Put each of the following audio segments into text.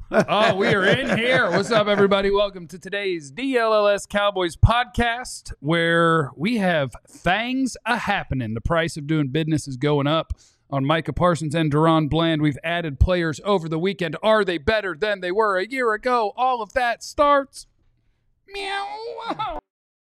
Oh, we are in here. What's up, everybody? Welcome to today's DLLS Cowboys podcast, where we have things a-happening. The price of doing business is going up. On Micah Parsons and DaRon Bland, we've added players over the weekend. Are they better than they were a year ago? All of that starts. Meow.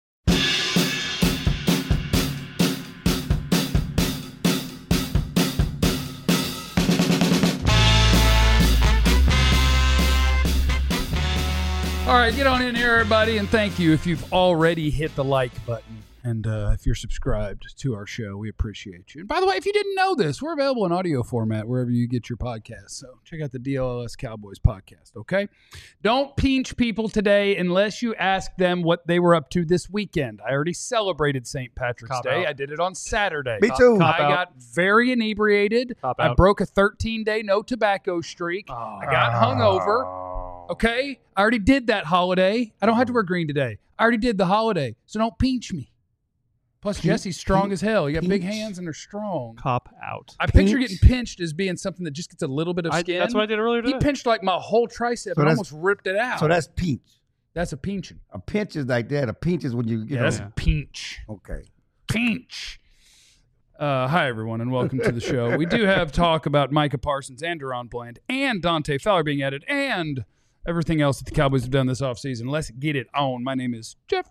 All right, get on in here, everybody, and thank you if you've already hit the like button and if you're subscribed to our show. We appreciate you. And by the way, if you didn't know this, we're available in audio format wherever you get your podcasts. So check out the DLLS Cowboys podcast, okay? Don't pinch people today unless you ask them what they were up to this weekend. I already celebrated St. Patrick's Day. I did it on Saturday. Me too. I got very inebriated. I broke a 13-day no tobacco streak. I got hungover. Okay? I already did that holiday. I don't have to wear green today. I already did the holiday, so don't pinch me. Plus, Jesse's strong as hell. You got big hands and they're strong. Cop out. I picture getting pinched as being something that just gets a little bit of skin. That's what I did earlier today. He pinched like my whole tricep and almost ripped it out. So that's pinch. That's a pinching. A pinch is like that. A pinch is when you know. That's a pinch. Okay. Pinch. Hi, everyone, and welcome to the show. We do have talk about Micah Parsons and DaRon Bland and Dante Fowler being added and everything else that the Cowboys have done this offseason. Let's get it on. My name is Jeff.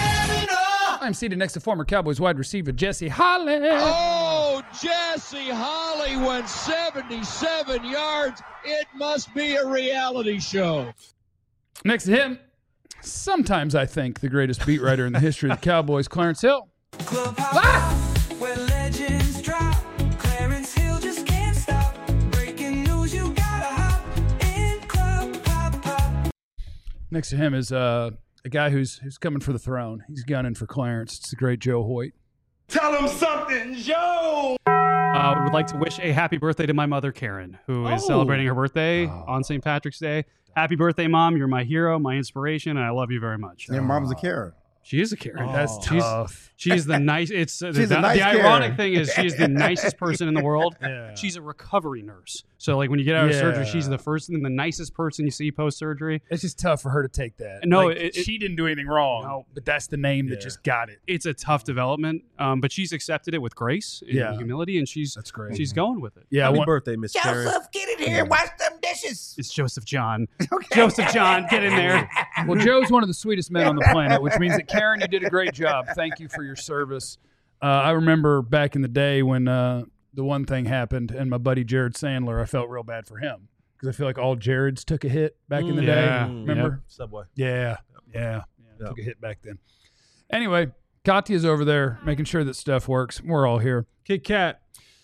I'm seated next to former Cowboys wide receiver Jesse Holley. Oh, Jesse Holley went 77 yards. It must be a reality show. Next to him, sometimes I think the greatest beat writer in the history of the Cowboys, Clarence Hill. Where legends drop. Clarence Hill just can't stop. Breaking news, you gotta hop in Club Pop. Next to him is a guy who's coming for the throne. He's gunning for Clarence. It's the great Joe Hoyt. Tell him something, Joe! I would like to wish a happy birthday to my mother, Karen, who is celebrating her birthday on St. Patrick's Day. Happy birthday, Mom. You're my hero, my inspiration, and I love you very much. Your mom's a Karen. She is a Karen. That's tough. She's the nice. It's She's a nice the ironic Karen. thing is she's the nicest person in the world. Yeah. She's a recovery nurse. So like when you get out of surgery, she's the first and the nicest person you see post surgery. It's just tough for her to take that. No, Like, she didn't do anything wrong. No. But that's the name that just got it. It's a tough development, but she's accepted it with grace and humility, and That's great. She's going with it. Yeah. Happy birthday, Miss Karen. Joseph, get in here. Wash them dishes. It's Joseph John. Okay. Joseph John, get in there. Well, Joe's one of the sweetest men on the planet, which means that, Karen, you did a great job. Thank you for your service. I remember back in the day when the one thing happened and my buddy Jared Sandler, I felt real bad for him because I feel like all Jareds took a hit back in the day. Remember? Subway. Yeah. Took a hit back then. Anyway, Katya's over there making sure that stuff works. We're all here. Kit Kat.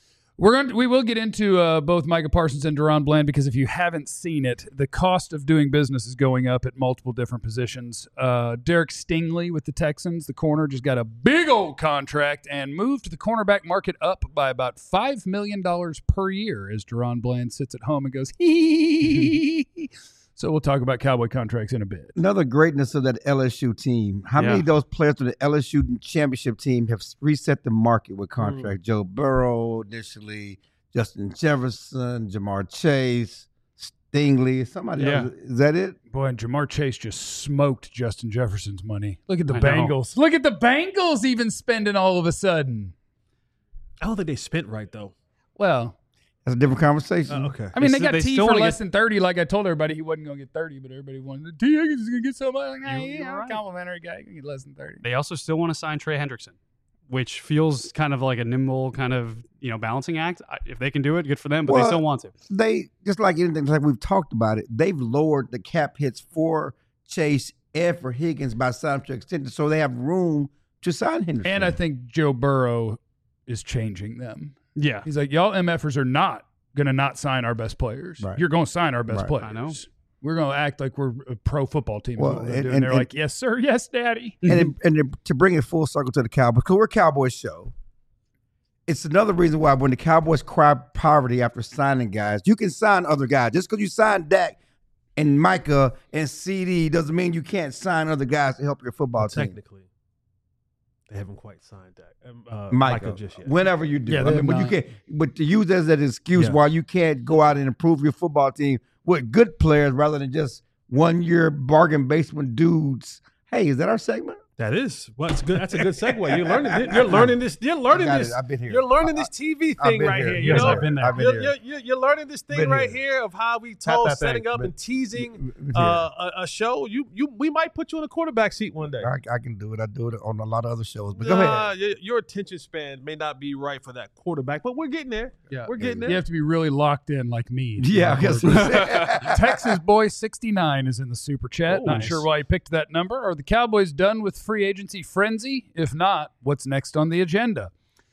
We will get into both Micah Parsons and DaRon Bland because if you haven't seen it, the cost of doing business is going up at multiple different positions. Derek Stingley with the Texans, the corner, just got a big old contract and moved the cornerback market up by about $5 million per year as DaRon Bland sits at home and goes, hee. So we'll talk about Cowboy contracts in a bit. Another greatness of that LSU team. How many of those players from the LSU championship team have reset the market with contracts? Joe Burrow initially, Justin Jefferson, Jamar Chase, Stingley, somebody else. Is that it? Boy, and Jamar Chase just smoked Justin Jefferson's money. Look at the Bengals. Look at the Bengals even spending all of a sudden. I don't think they spent right, though. Well, that's a different conversation. Okay. I mean, they got they T still for wanna less than 30. Like I told everybody, he wasn't going to get 30, but everybody wanted T. Higgins is going to get somebody. Like, hey, You're I'm right. a complimentary guy. You can get less than 30. They also still want to sign Trey Hendrickson, which feels kind of like a nimble kind of balancing act. If they can do it, good for them. But they still want to. They just like anything, like we've talked about it. They've lowered the cap hits for Chase and for Higgins by signing to extend, so they have room to sign Henderson. And I think Joe Burrow is changing them. Yeah. He's like, y'all MFers are not going to not sign our best players. Right. You're going to sign our best Right. players. I know. We're going to act like we're a pro football team. Well, And they're like, yes, sir. Yes, daddy. And to bring it full circle to the Cowboys, because we're a Cowboys show, it's another reason why when the Cowboys cry poverty after signing guys, you can sign other guys. Just because you sign Dak and Micah and CD doesn't mean you can't sign other guys to help your football team. Technically. They haven't quite signed that. Micah, just yet. whenever you do. Yeah, I mean, but you can't. But to use that as an excuse why you can't go out and improve your football team with good players rather than just 1 year bargain basement dudes. Hey, is that our segment? That is. Well, it's good. That's a good segue. You're learning. You're learning this. You're learning I got this. it. I've been here. You're learning this TV I've thing been right here. here. Yes, You know, I've been there. I've been here. You're learning this thing Been right here. here of how we told that setting thing. up Been- and teasing been here. a show. We might put you in a quarterback seat one day. I can do it. I do it on a lot of other shows. But go ahead. Your attention span may not be right for that quarterback, but we're getting there. Yeah. We're getting there. You have to be really locked in like me. Yeah, I guess. Texas Boy 69 is in the super chat. Oh, Not nice. sure why he picked that number. Are the Cowboys done with free agency frenzy? If not, what's next on the agenda?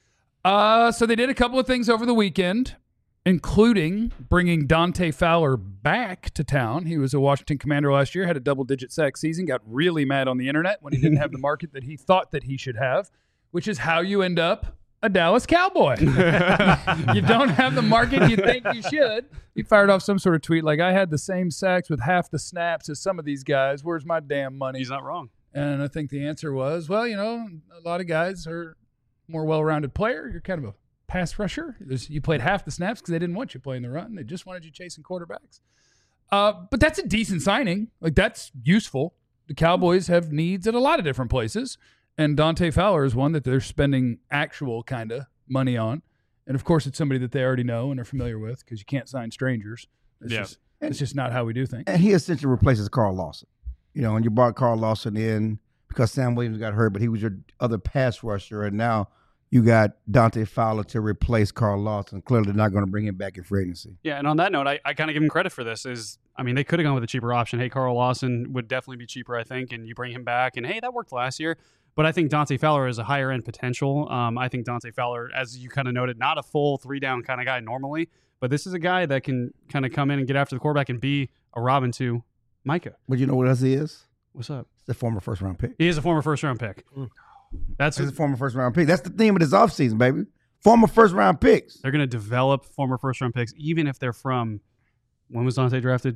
So they did a couple of things over the weekend, including bringing Dante Fowler back to town. He was a Washington Commander last year, had a double-digit sack season, got really mad on the internet when he didn't have the market that he thought that he should have, which is how you end up a Dallas Cowboy. You don't have the market you think you should. He fired off some sort of tweet like, I had the same sacks with half the snaps as some of these guys. Where's my damn money? He's not wrong. And I think the answer was, well, you know, a lot of guys are more well-rounded player. You're kind of a pass rusher. You played half the snaps because they didn't want you playing the run. They just wanted you chasing quarterbacks. But that's a decent signing. Like, that's useful. The Cowboys have needs at a lot of different places. And Dante Fowler is one that they're spending actual kind of money on. And, of course, it's somebody that they already know and are familiar with because you can't sign strangers. It's just not how we do things. And he essentially replaces Carl Lawson. You know, and you brought Carl Lawson in because Sam Williams got hurt, but he was your other pass rusher. And now you got Dante Fowler to replace Carl Lawson. Clearly they're not going to bring him back in free agency. Yeah, and on that note, I kind of give him credit for this. They could have gone with a cheaper option. Hey, Carl Lawson would definitely be cheaper, I think, and you bring him back, and hey, that worked last year. But I think Dante Fowler is a higher end potential. I think Dante Fowler, as you kind of noted, not a full 3-down kind of guy normally, but this is a guy that can kind of come in and get after the quarterback and be a Robin to Micah. But you know what else he is? What's up? He's a former first-round pick. He is a former first-round pick. That's He's a former first-round pick. That's the theme of this offseason, baby. Former first-round picks. They're going to develop former first-round picks, even if they're from, when was Dante drafted?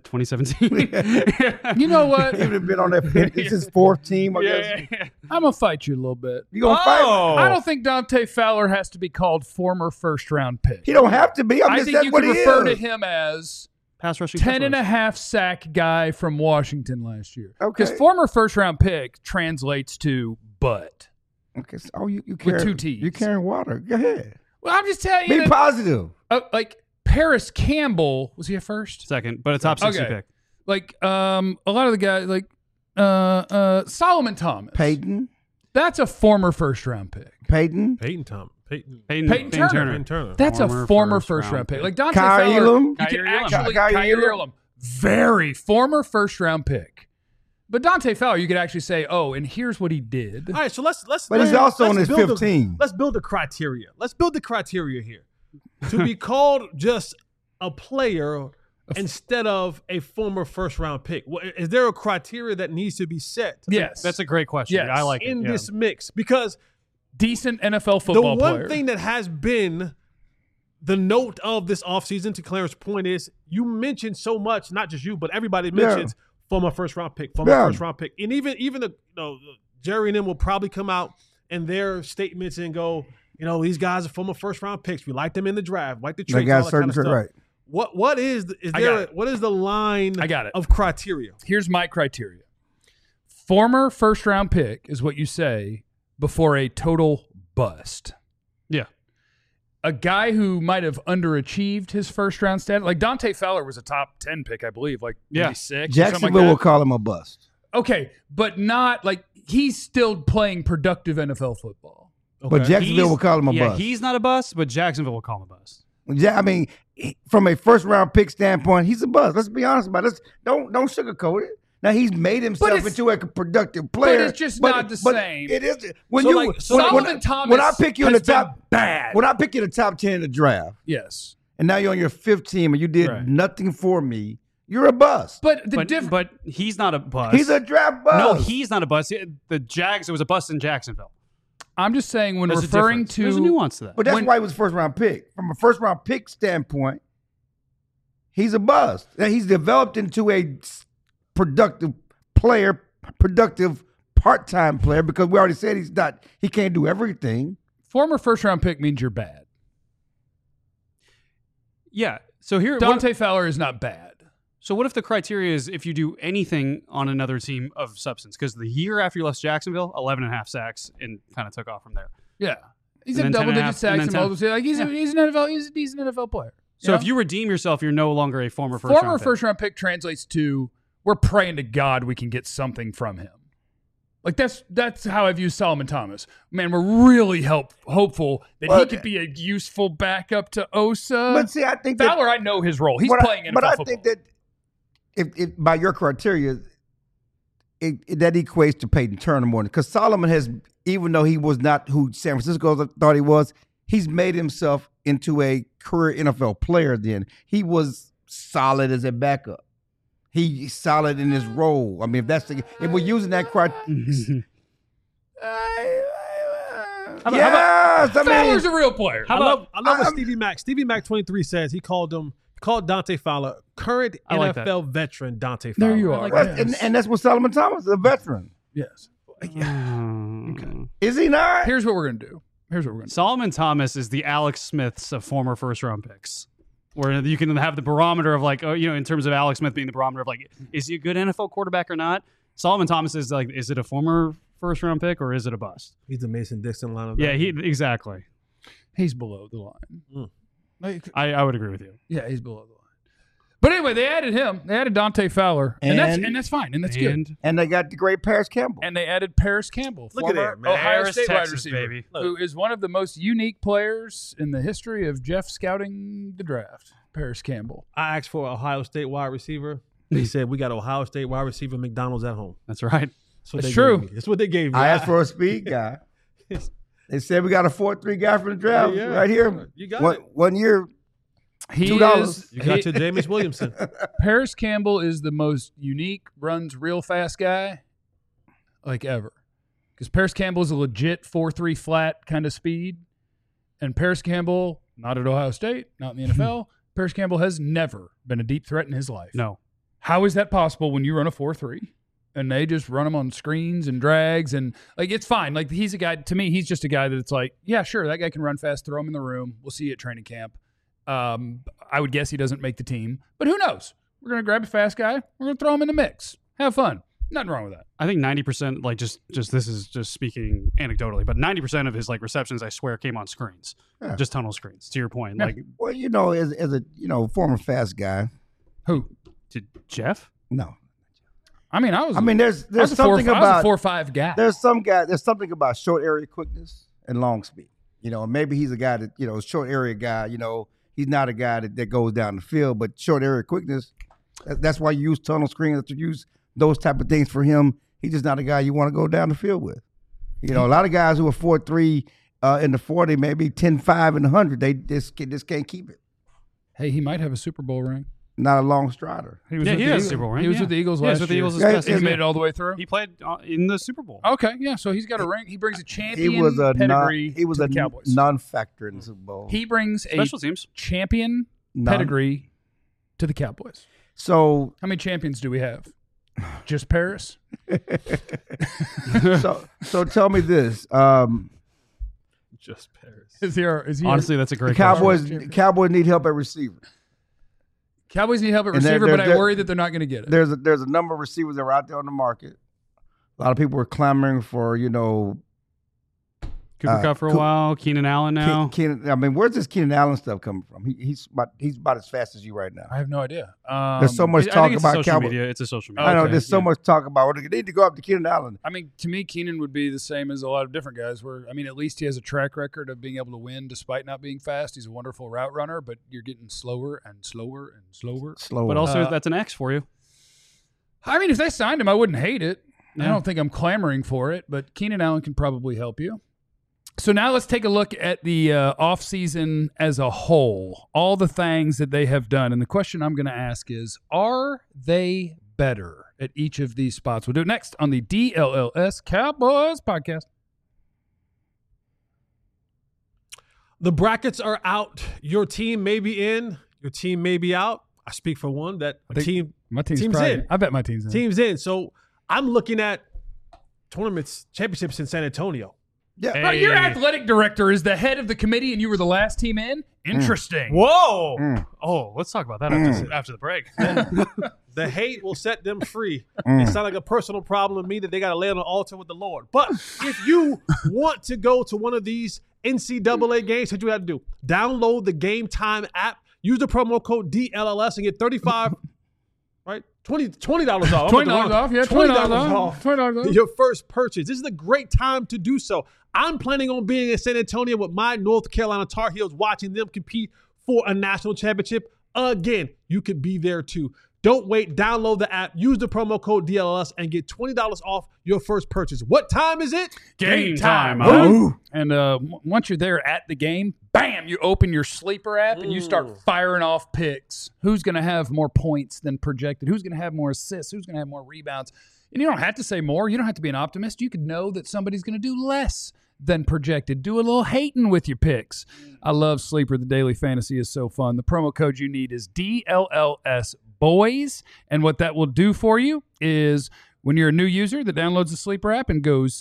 2017? You know what? He would have been on that. It's his fourth team, I guess. I'm going to fight you a little bit. You going to fight him? I don't think Dante Fowler has to be called former first-round pick. He don't have to be. I think you what could he refer to is. him as Pass rushing. 10 and a half sack guy from Washington last year. Okay. Because former first-round pick translates to butt. Okay, so you carry, two T's. You're carrying water. Go ahead. Well, I'm just telling Be you. positive. Like, Paris Campbell, was he a first? Second, but a top 60 Okay. pick. Like, a lot of the guys, like Solomon Thomas. Peyton. That's a former first-round pick. Peyton. Peyton Turner. Peyton Turner. Peyton Turner. That's a former first-round first-round pick. pick. Like Dante Kyle Fowler, Elam? you Kyle can Elam. actually Kyle Kyle Elam? Elam, very former first-round pick. But Dante Fowler, you could actually say, oh, and here's what he did. All right, so let's. But he's also on his build 15. Let's build the criteria. Let's build the criteria here to be called just a player instead of a former first-round pick. Is there a criteria that needs to be set? Yes, That's a great question. Yes. I like it. in Yeah. this mix, because decent NFL the football one player. thing that has been the note of this offseason, to Clarence's point, is you mentioned so much, not just you, but everybody mentions former first-round pick, first-round pick. And even the Jerry and them will probably come out in their statements and go, these guys are former first-round picks. We like them in the draft, like the They trades, got all that kind of certain stuff. right. What is I got it. what is the line I got it. of criteria? Here's my criteria. Former first-round pick is what you say before a total bust. Yeah. A guy who might have underachieved his first-round status, like Dante Fowler was a top 10 pick, I believe, like maybe 6 or something Jacksonville like will that. call him a bust. Okay, but not like he's still playing productive NFL football. But Jacksonville will call him a bust. He's not a bust, but Jacksonville will call him a bust. Yeah, I mean, from a first-round pick standpoint, he's a bust. Let's be honest about it. Don't sugarcoat it. Now, he's made himself into a productive player. But it's just not the same. It is. When So, you like, so Solomon Thomas when I pick you in the has been top bad. when I pick you in the top 10 in the draft, Yes. and now you're on your fifth team and you did Right. nothing for me, you're a bust. But the But, difference. but he's not a bust. He's a draft bust. No, he's not a bust. The Jags, it was a bust in Jacksonville. I'm just saying when There's a referring difference. to There's a nuance to that. But that's when- why he was a first-round pick. From a first-round pick standpoint, he's a bust. Now, he's developed into a productive player, productive part-time player because we already said he can't do everything. Former first-round pick means you're bad. Yeah. So here, Dante Fowler is not bad. So what if the criteria is if you do anything on another team of substance? Because the year after you left Jacksonville, 11.5 sacks and kind of took off from there. Yeah. He's And in then 10 and a double-digit half, sacks and and then 10. multiple. Like he's a decent NFL player. So if you redeem yourself, you're no longer a former former first-round pick. first-round pick translates to we're praying to God we can get something from him. Like that's how I view Solomon Thomas. Man, we're really hopeful that he could be a useful backup to Osa. But see, I think Fowler, I know his role. He's playing NFL But I football. think that if by your criteria, that equates to Peyton Turner more because Solomon has, even though he was not who San Francisco thought he was, he's made himself into a career NFL player. Then he was solid as a backup. He's solid in his role. I mean, if we're using that criteria. Fowler's a real player. I love what Stevie Mac 23 says. He called Dante Fowler current like NFL veteran Dante Fowler. There you are. And that's what Solomon Thomas is, a veteran. Yes. Is he not? Here's what we're going to do. Solomon Thomas is the Alex Smiths of former first-round picks. Where you can have the barometer of like, in terms of Alex Smith being the barometer of like, is he a good NFL quarterback or not? Solomon Thomas is like, is it a former first-round pick or is it a bust? He's the Mason Dixon line of Yeah, exactly. He's below the line. Like, I would agree with you. Yeah, he's below the line. But anyway, they added him. They added Dante Fowler, and that's fine, and that's good. And they got the great Paris Campbell. And they added Paris Campbell, Look at former that, man. Ohio Paris, State Texas, wide receiver, baby. who is one of the most unique players in the history of Jeff scouting the draft. Paris Campbell. I asked for an Ohio State wide receiver. They said we got Ohio State wide receiver McDonald's at home. That's right. That's true. That's what they gave me. I asked for a speed guy. They said we got a 4.3 guy from the draft right here. You got it. 1 year. He $2. is. You got your Jameis Williamson. Paris Campbell is the most unique, runs real fast guy like ever. Because Paris Campbell is a legit 4.3 flat kind of speed. And Paris Campbell, not at Ohio State, not in the NFL, Paris Campbell has never been a deep threat in his life. No. How is that possible when you run a 4.3 and they just run him on screens and drags and like it's fine. Like he's a guy, to me, he's just a guy that it's like, yeah, sure, that guy can run fast, throw him in the room. We'll see you at training camp. I would guess he doesn't make the team, but who knows? We're going to grab a fast guy. We're going to throw him in the mix. Have fun. Nothing wrong with that. I think 90%, like just this is just speaking anecdotally, but 90% of his like receptions, I swear, came on screens, just tunnel screens. To your point, like Well, as a former fast guy. Who? did Jeff? No. I mean, there's I something about was a 4.5 guy. There's something about short area quickness and long speed. Maybe he's a guy that short area guy. He's not a guy that goes down the field, but short area quickness. That's why you use tunnel screens. To use those type of things for him. He's just not a guy you want to go down the field with. A lot of guys who are 4.3 in the 40, maybe 10.5 in the 100, they just can't keep it. Hey, he might have a Super Bowl ring. Not a long strider. He was Yeah, with he the has Eagles. a Super Bowl ring, He was yeah. with the Eagles Yeah, last he's with the year. Eagles this past He season. made it all the way through. He played in the Super Bowl. Okay, yeah. So he's got a ring. He brings a champion He was a pedigree he was to a the Cowboys. non-factor in the Super Bowl. He brings a Special teams. champion None. pedigree to the Cowboys. So How many champions do we have? Just Paris? so tell me this. Just Paris. Is he Honestly, that's a great Cowboys need help at receiver. Cowboys need help at And there- receiver, but there- I worry that they're not going to get it. There's a number of receivers that are out there on the market. A lot of people were clamoring for, Cooper Kupp for a while. Keenan Allen now. Keenan. I mean, where's this Keenan Allen stuff coming from? He's about as fast as you right now. I have no idea. There's so much I talk think it's about social Cowboys. media. It's a social media. I know Okay, there's so much talk about. They need to go up to Keenan Allen. I mean, to me, Keenan would be the same as a lot of different guys. At least he has a track record of being able to win despite not being fast. He's a wonderful route runner, but you're getting slower and slower and slower. Slower. But also, that's an X for you. I mean, if they signed him, I wouldn't hate it. I Yeah. don't think I'm clamoring for it, but Keenan Allen can probably help you. So now let's take a look at the offseason as a whole, all the things that they have done. And the question I'm going to ask is, are they better at each of these spots? We'll do it next on the DLLS Cowboys podcast. The brackets are out. Your team may be in. Your team may be out. I speak for one that My team's team's probably in. I bet my team's in. Team's in. So I'm looking at tournaments, championships in San Antonio. Yeah. Hey. Right, your athletic director is the head of the committee, and you were the last team in. Interesting. Whoa. Oh, let's talk about that after the break. The hate will set them free. It sounds like a personal problem to me that they got to lay on the altar with the Lord. But if you want to go to one of these NCAA games, what you have to do? Download the Game Time app. Use the promo code DLLS and get $35, right? $20 off. $20 off. Yeah, $20 off. $20 off. Your first purchase. This is a great time to do so. I'm planning on being in San Antonio with my North Carolina Tar Heels, watching them compete for a national championship. Again, you could be there too. Don't wait. Download the app. Use the promo code DLLS and get $20 off your first purchase. What time is it? Game time. And once you're there at the game, bam, you open your Sleeper app and you start firing off picks. Who's going to have more points than projected? Who's going to have more assists? Who's going to have more rebounds? And you don't have to say more. You don't have to be an optimist. You can know that somebody's going to do less than projected. Do a little hating with your picks. I love Sleeper. The daily fantasy is so fun. The promo code you need is DLLS Boys. And what that will do for you is when you're a new user that downloads the Sleeper app and goes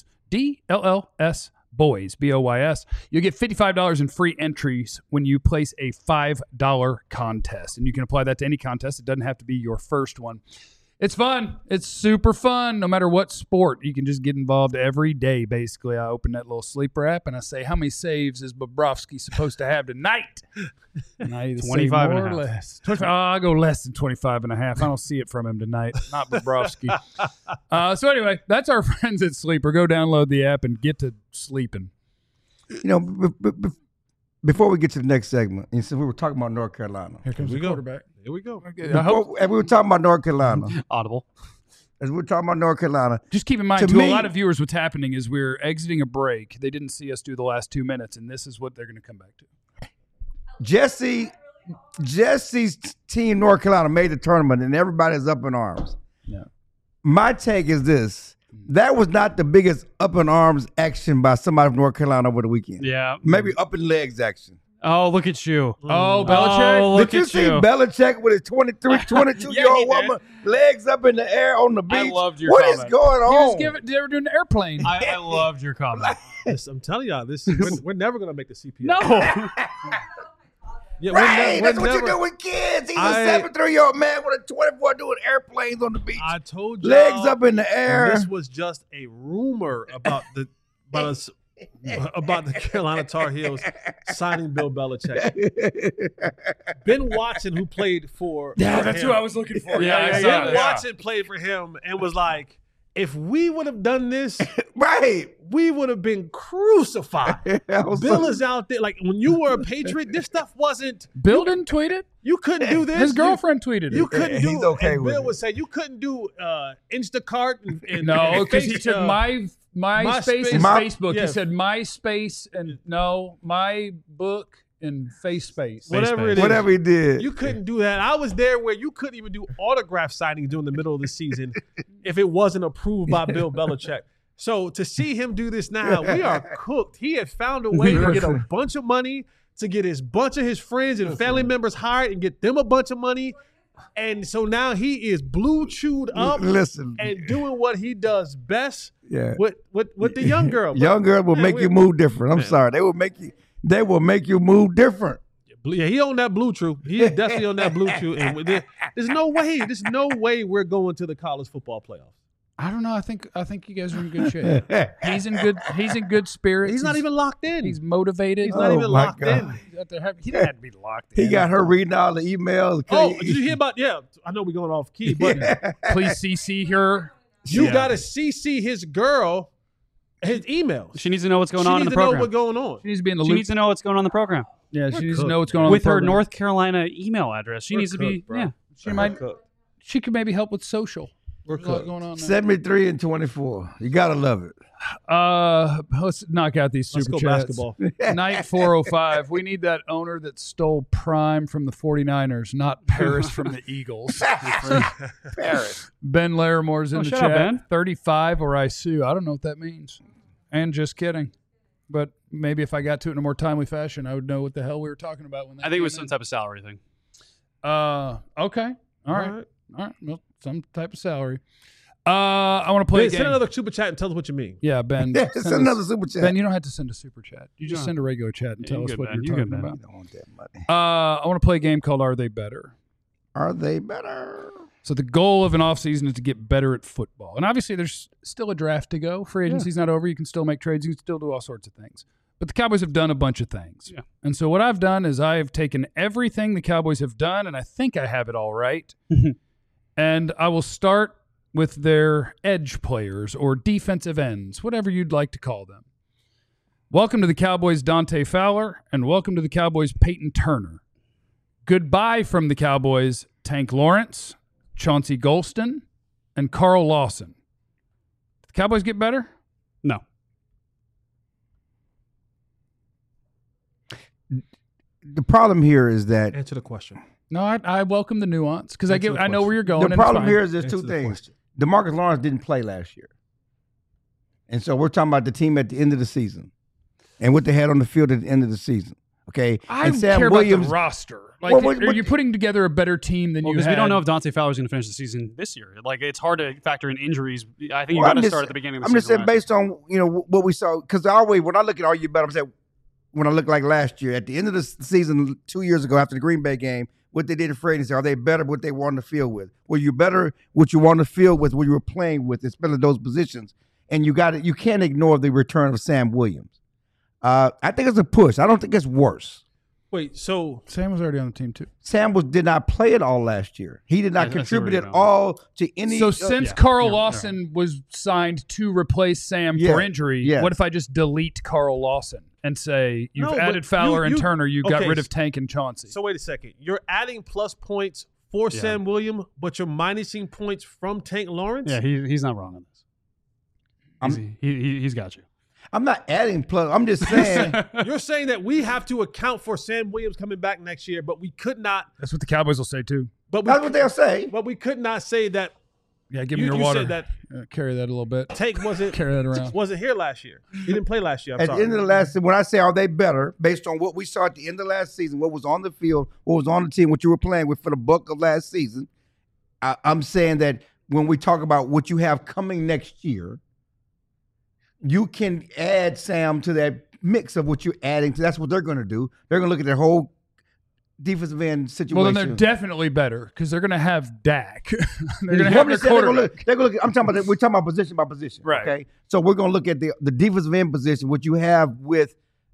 DLLS Boys, B-O-Y-S, you'll get $55 in free entries when you place a $5 contest. And you can apply that to any contest. It doesn't have to be your first one. It's fun. It's super fun. No matter what sport, you can just get involved every day, basically. I open that little Sleeper app and I say, how many saves is Bobrovsky supposed to have tonight? And I either 25 say and more a or half. less. 25, I'll go less than 25 and a half. I don't see it from him tonight. Not Bobrovsky. So anyway, that's our friends at Sleeper. Go download the app and get to sleeping. You know, before we get to the next segment, and since we were talking about North Carolina. Here comes we the go. quarterback. Here we go. And we were talking about North Carolina. Audible. As we were talking about North Carolina. Just keep in mind, To to me- a lot of viewers, what's happening is we're exiting a break. They didn't see us do the last 2 minutes, and this is what they're going to come back to. Jesse's team, North Carolina, made the tournament, and everybody's up in arms. Yeah. My take is this. That was not the biggest up in arms action by somebody from North Carolina over the weekend. Yeah. Maybe up in legs action. Oh, look at you. Oh, Belichick? Oh, look Did you at see you. Belichick with his 22-year-old woman, legs up in the air on the beach? I loved your What is comment. going on? They were doing an airplane. I loved your comment. I'm telling y'all, we're never going to make the CPS. No. Yeah, Right, we're that's what you never- do with kids. He's I- a 73-year-old man with a 24 doing airplanes on the beach. I told you. Legs up in the air. This was just a rumor about the Carolina Tar Heels signing Bill Belichick. Ben Watson, who played for That's him, who I was looking for. Yeah, I saw Ben that. Watson played for him and was like, if we would have done this, Right. we would have been crucified. I was Bill so- is out there. Like, when you were a Patriot, this stuff wasn't, Bill didn't tweet it. you couldn't do this. His girlfriend tweeted You it. couldn't He's do okay and with Bill it. would say you couldn't do Instacart and No, because he Face- took my MySpace and My- Facebook. yeah. He said MySpace and my book and FaceSpace. whatever it is. Whatever he did. You couldn't do that. I was there where you couldn't even do autograph signings during the middle of the season if it wasn't approved by Bill Belichick. So to see him do this now, we are cooked. He had found a way to get a bunch of money, to get his bunch of his friends and family members hired and get them a bunch of money. And so now he is blue chewed up Listen. and doing what he does best Yeah. with the young girl. Young girl will Man, make we- you move different. I'm sorry. They will make you move different. Yeah, he on that blue chew. He is definitely on that blue chew. And there's no way we're going to the college football playoffs. I don't know. I think you guys are in good shape. He's in good spirits. He's not even locked in. He's motivated. He's not Oh, even my locked God. in. He didn't have to be locked in. He got her reading all the emails. Oh, did you hear about? Yeah, I know we're going off key, but Please CC her. you Yeah. got to CC his girl, his emails. She needs to know what's going She on in needs the to know program. what's going on. She needs to be in the She loop. needs to know what's going on in the program. Yeah, she needs to cooked. know what's going on With in the her program. North Carolina email address. She We're needs to be, cooked, bro. yeah. She might. She could maybe help with social. We're There's a lot cooked. going on there. 73 and 24. You gotta love it. Let's knock out these Let's super go chats. basketball. Night 405. We need that owner that stole Prime from the 49ers, not Paris from the Eagles. Paris. Ben Laramore's in Oh, the shut chat. up, Ben. 35 or I sue. I don't know what that means. And just kidding. But maybe if I got to it in a more timely fashion, I would know what the hell we were talking about when that I think it was came some in. type of salary thing. Okay. All right. Well, some type of salary. I want to play a game. Send another super chat and tell us what you mean. Yeah, Ben. Yeah, send another super chat. Ben, you don't have to send a super chat. You just No. send a regular chat and Yeah, tell you us good, what Ben. you're You talking good, Ben. about. I don't want that money. I want to play a game called Are They Better? Are they better? So the goal of an offseason is to get better at football. And obviously there's still a draft to go. Free agency's not over. You can still make trades. You can still do all sorts of things. But the Cowboys have done a bunch of things. Yeah. And so what I've done is I have taken everything the Cowboys have done, and I think I have it all right. And I will start with their edge players or defensive ends, whatever you'd like to call them. Welcome to the Cowboys, Dante Fowler, and welcome to the Cowboys, Peyton Turner. Goodbye from the Cowboys, Tank Lawrence, Chauncey Golston, and Carl Lawson. Did the Cowboys get better? No. The problem here is that Answer the question. No, I welcome the nuance because Answer the I know where you're going. the and it's problem fine. here is there's Answer two the things. question. DeMarcus Lawrence didn't play last year. And so we're talking about the team at the end of the season and what they had on the field at the end of the season. Okay. I and Sam care Williams, about the roster. Like, Well, what- are you putting together a better team than you Because had? we don't know if Dante Fowler's going to finish the season this year. Like, it's hard to factor in injuries. I think you Well, got I'm to just- start at the beginning of the I'm just season. saying based on what we saw, because always when I look at Are You Better, I'm saying when I look like last year at the end of the season 2 years ago after the Green Bay game, what they did in free agency, are they better what they were on the field with? Were you better what you were on the field with, what you were playing with, especially those positions? And you can't ignore the return of Sam Williams. I think it's a push. I don't think it's worse. Wait, so Sam was already on the team too. Sam did not play it all last year. He did not Yeah, I see where contribute you're at going. all to any. So since yeah, Carl yeah, Lawson was signed to replace Sam Yeah, for injury, yes. what if I just delete Carl Lawson and say you've No, but added Fowler and you- Turner, you got okay, rid of Tank and Chauncey? so wait a second. You're adding plus points for Yeah. Sam Williams, but you're minusing points from Tank Lawrence? Yeah, he's not wrong on this. He's got you. I'm not adding plus. I'm just saying. You're saying that we have to account for Sam Williams coming back next year, but we could not. That's what the Cowboys will say too. But That's what they'll say. But we could not say that Yeah, give me You- your you water. said that- Carry that a little bit. Tank wasn't Carry that around. wasn't here last year. He didn't play last year. I'm At sorry. the end of the last season, when I say are they better, based on what we saw at the end of last season, what was on the field, what was on the team, what you were playing with for the bulk of last season, I'm saying that when we talk about what you have coming next year, you can add Sam to that mix of what you're adding to. That's what they're going to do. They're going to look at their whole defensive end situation. Well, then they're definitely better because they're going to have Dak. they're going to Well, have I'm their just saying they're gonna quarterback. look, we're talking about position by position. Right. Okay. So we're going to look at the defensive end position, what you have with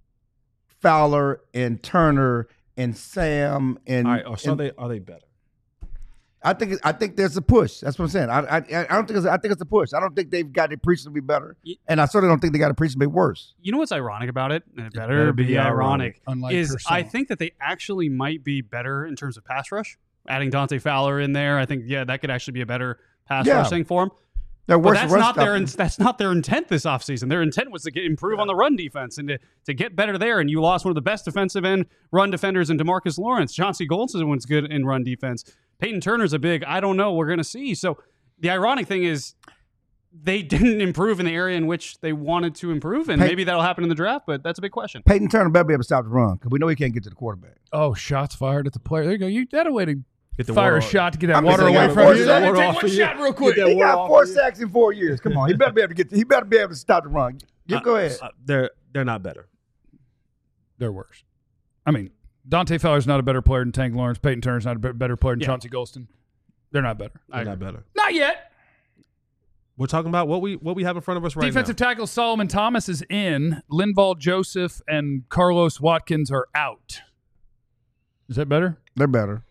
Fowler and Turner and Sam and. All right. So and are they better? I think there's a push. That's what I'm saying. I don't think I think it's a push. I don't think they've got it appreciably better, and I certainly don't think they got it appreciably worse. You know what's ironic about it? And it better better be be ironic. ironic. Unlike is Purcell. I think that they actually might be better in terms of pass rush. Adding Dante Fowler in there, I think that could actually be a better pass Yeah. rush thing for them. They're But worse. that's not their intent this offseason. Their intent was to improve on the run defense and to get better there. And you lost one of the best defensive end run defenders in DeMarcus Lawrence. Chauncey Golston was good in run defense. Peyton Turner's a big, I don't know, we're going to see. So the ironic thing is they didn't improve in the area in which they wanted to improve. And maybe that'll happen in the draft, but that's a big question. Peyton Turner better be able to stop the run because we know he can't get to the quarterback. Oh, shots fired at the player. There you go. You had a way to Get the fire water a shot to get that I'm just water saying, away got from four you. sacks. Take Water off one of you. shot real quick. Get that He water got off 4 of you. sacks in 4 years. Come on, he better be able to get. He better be able to stop the run. Go ahead. They're not better. They're worse. I mean, Dante Fowler's not a better player than Tank Lawrence. Peyton Turner's not a better player than Yeah. Chauncey Golston. They're not better. They're not better. Not yet. We're talking about what we have in front of us right Defensive now. tackle Solomon Thomas is in. Linval Joseph and Carlos Watkins are out. Is that better? They're better,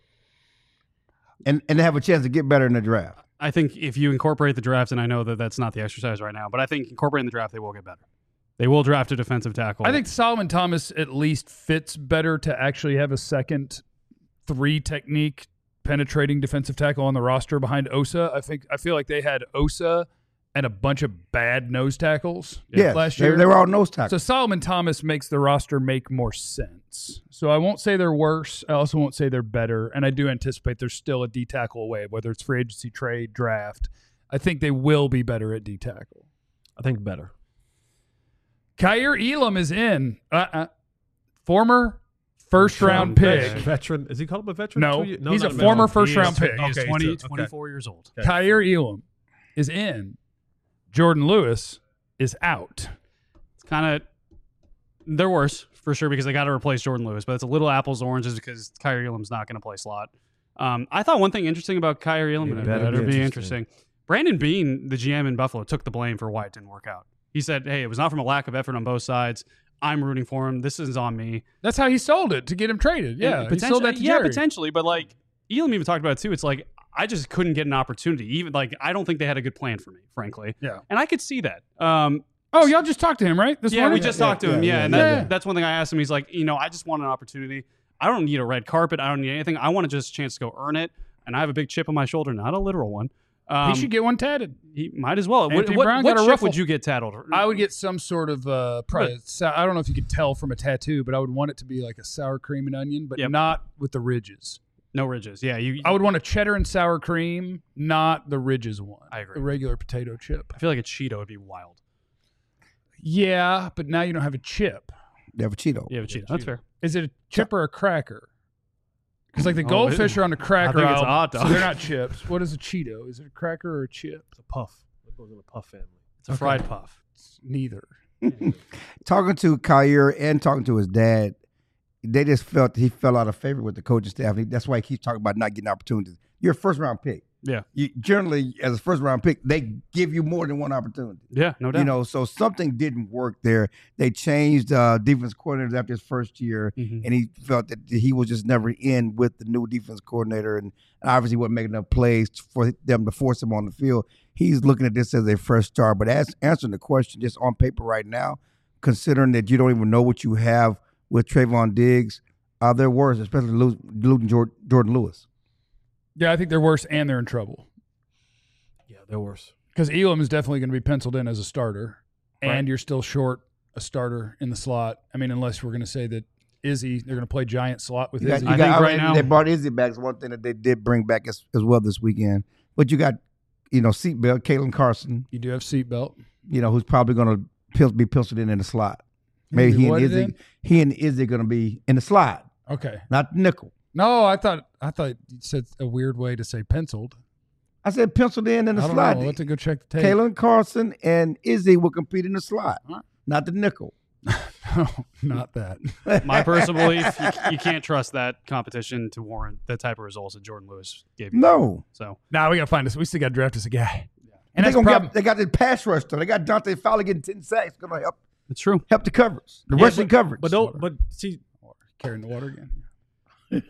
and they have a chance to get better in the draft. I think if you incorporate the draft, and I know that that's not the exercise right now, but I think incorporating the draft, they will get better. They will draft a defensive tackle. I think Solomon Thomas at least fits better to actually have a second 3-technique penetrating defensive tackle on the roster behind Osa. I feel like they had Osa and a bunch of bad nose tackles Yes, last year. they were all nose tackles. So Solomon Thomas makes the roster make more sense. So I won't say they're worse. I also won't say they're better. And I do anticipate there's still a D tackle away, whether it's free agency, trade, draft. I think they will be better at D tackle. I think better. Kyer Elam is in. Former first-round pick. Veteran. Is he called a veteran? No, 2 years? he's a not former veteran. first-round pick. He is Okay, 20, okay. 24 years old. Kyer Elam is in. Jordan Lewis is out. It's kind of they're worse for sure because they got to replace Jordan Lewis, but it's a little apples to oranges because Kyrie Elam's not going to play slot. I thought one thing interesting about Kyrie Elam, and it better be interesting. Brandon Beane, the GM in Buffalo, took the blame for why it didn't work out. He said, "Hey, it was not from a lack of effort on both sides. I'm rooting for him. This is on me." That's how he sold it to get him traded. Yeah, he sold that to Jerry. Potentially, but like Elam even talked about it too. It's like I just couldn't get an opportunity. Even like I don't think they had a good plan for me, frankly. Yeah, and I could see that. Oh, y'all just talked to him, right? This morning? We just talked to him. And that's one thing I asked him. He's like, I just want an opportunity. I don't need a red carpet. I don't need anything. I want just a chance to go earn it. And I have a big chip on my shoulder, not a literal one. He should get one tatted. He might as well. Anthony What Brown got a chip ruffle. would you get tattled? I would get some sort of I don't know if you could tell from a tattoo, but I would want it to be like a sour cream and onion, but not with the ridges. No ridges. Yeah, I would want a cheddar and sour cream, not the ridges one. I agree. The regular potato chip. I feel like a Cheeto would be wild. Yeah, but now you don't have a chip. You have a Cheeto. You have a Cheeto. That's fair. Is it a chip or a cracker? Because like the goldfish are on the cracker I think it's a album, hot dog. so they're not chips. What is a Cheeto? Is it a cracker or a chip? It's a puff. It goes in the puff family. It's a fried puff. It's neither. Talking to Kyrie and talking to his dad, they just felt he fell out of favor with the coaching staff. That's why he keeps talking about not getting opportunities. You're a first-round pick. Yeah. You, generally, as a first-round pick, they give you more than one opportunity. Yeah, no doubt. So something didn't work there. They changed defense coordinators after his first year, and he felt that he was just never in with the new defense coordinator, and obviously wasn't making enough plays for them to force him on the field. He's looking at this as a fresh start. But answering the question just on paper right now, considering that you don't even know what you have with Trayvon Diggs, they're worse, especially losing Jordan Lewis. Yeah, I think they're worse and they're in trouble. Yeah, they're worse. Because Elam is definitely going to be penciled in as a starter, Right. and you're still short a starter in the slot. I mean, unless we're going to say that Izzy, they're going to play giant slot with Izzy. I think right now they brought Izzy back. It's one thing that they did bring back as well this weekend. But you got, seatbelt, Kalen Carson, You do have seatbelt. who's probably going to be penciled in the slot. Maybe he and Izzy are going to be in the slot, Okay. not nickel. No, I thought you said a weird way to say penciled. I said penciled in the I don't slot. know. Let's go check the tape. Kalen Carson and Izzy will compete in the slot, All right. not the nickel. No, not that. my personal belief, you can't trust that competition to warrant the type of results that Jordan Lewis gave you. No. So Nah, we got to find us. We still got to draft us a guy. And they that's problem. got the pass rush, though. They got Dante Fowler getting 10 sacks. Going to it's true. help the coverage, the rushing coverage. But see, Carrying the water again. we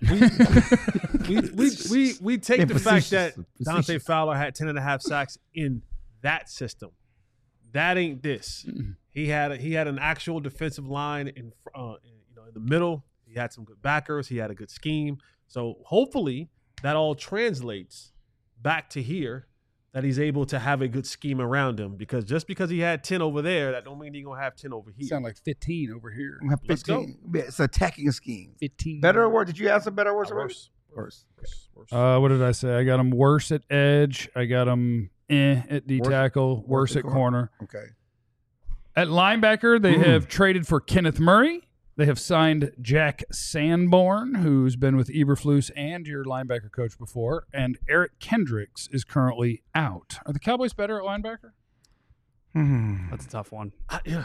take the fact that Dante Fowler had 10.5 sacks in that system. That ain't this. He had an actual defensive line in the middle. He had some good backers. He had a good scheme. So hopefully that all translates back to here, that he's able to have a good scheme around him. Because just because he had 10 over there, that don't mean he's gonna have 10 over here. Sound like 15 over here. Let's go. It's an attacking scheme. 15. Better or worse? Did you have some better or worse? Worse. What did I say? I got him worse at edge. I got him at D tackle. Worse at corner. Okay. At linebacker, they have traded for Kenneth Murray. They have signed Jack Sanborn, who's been with Eberflus and your linebacker coach before, and Eric Kendricks is currently out. Are the Cowboys better at linebacker? That's a tough one. Yeah.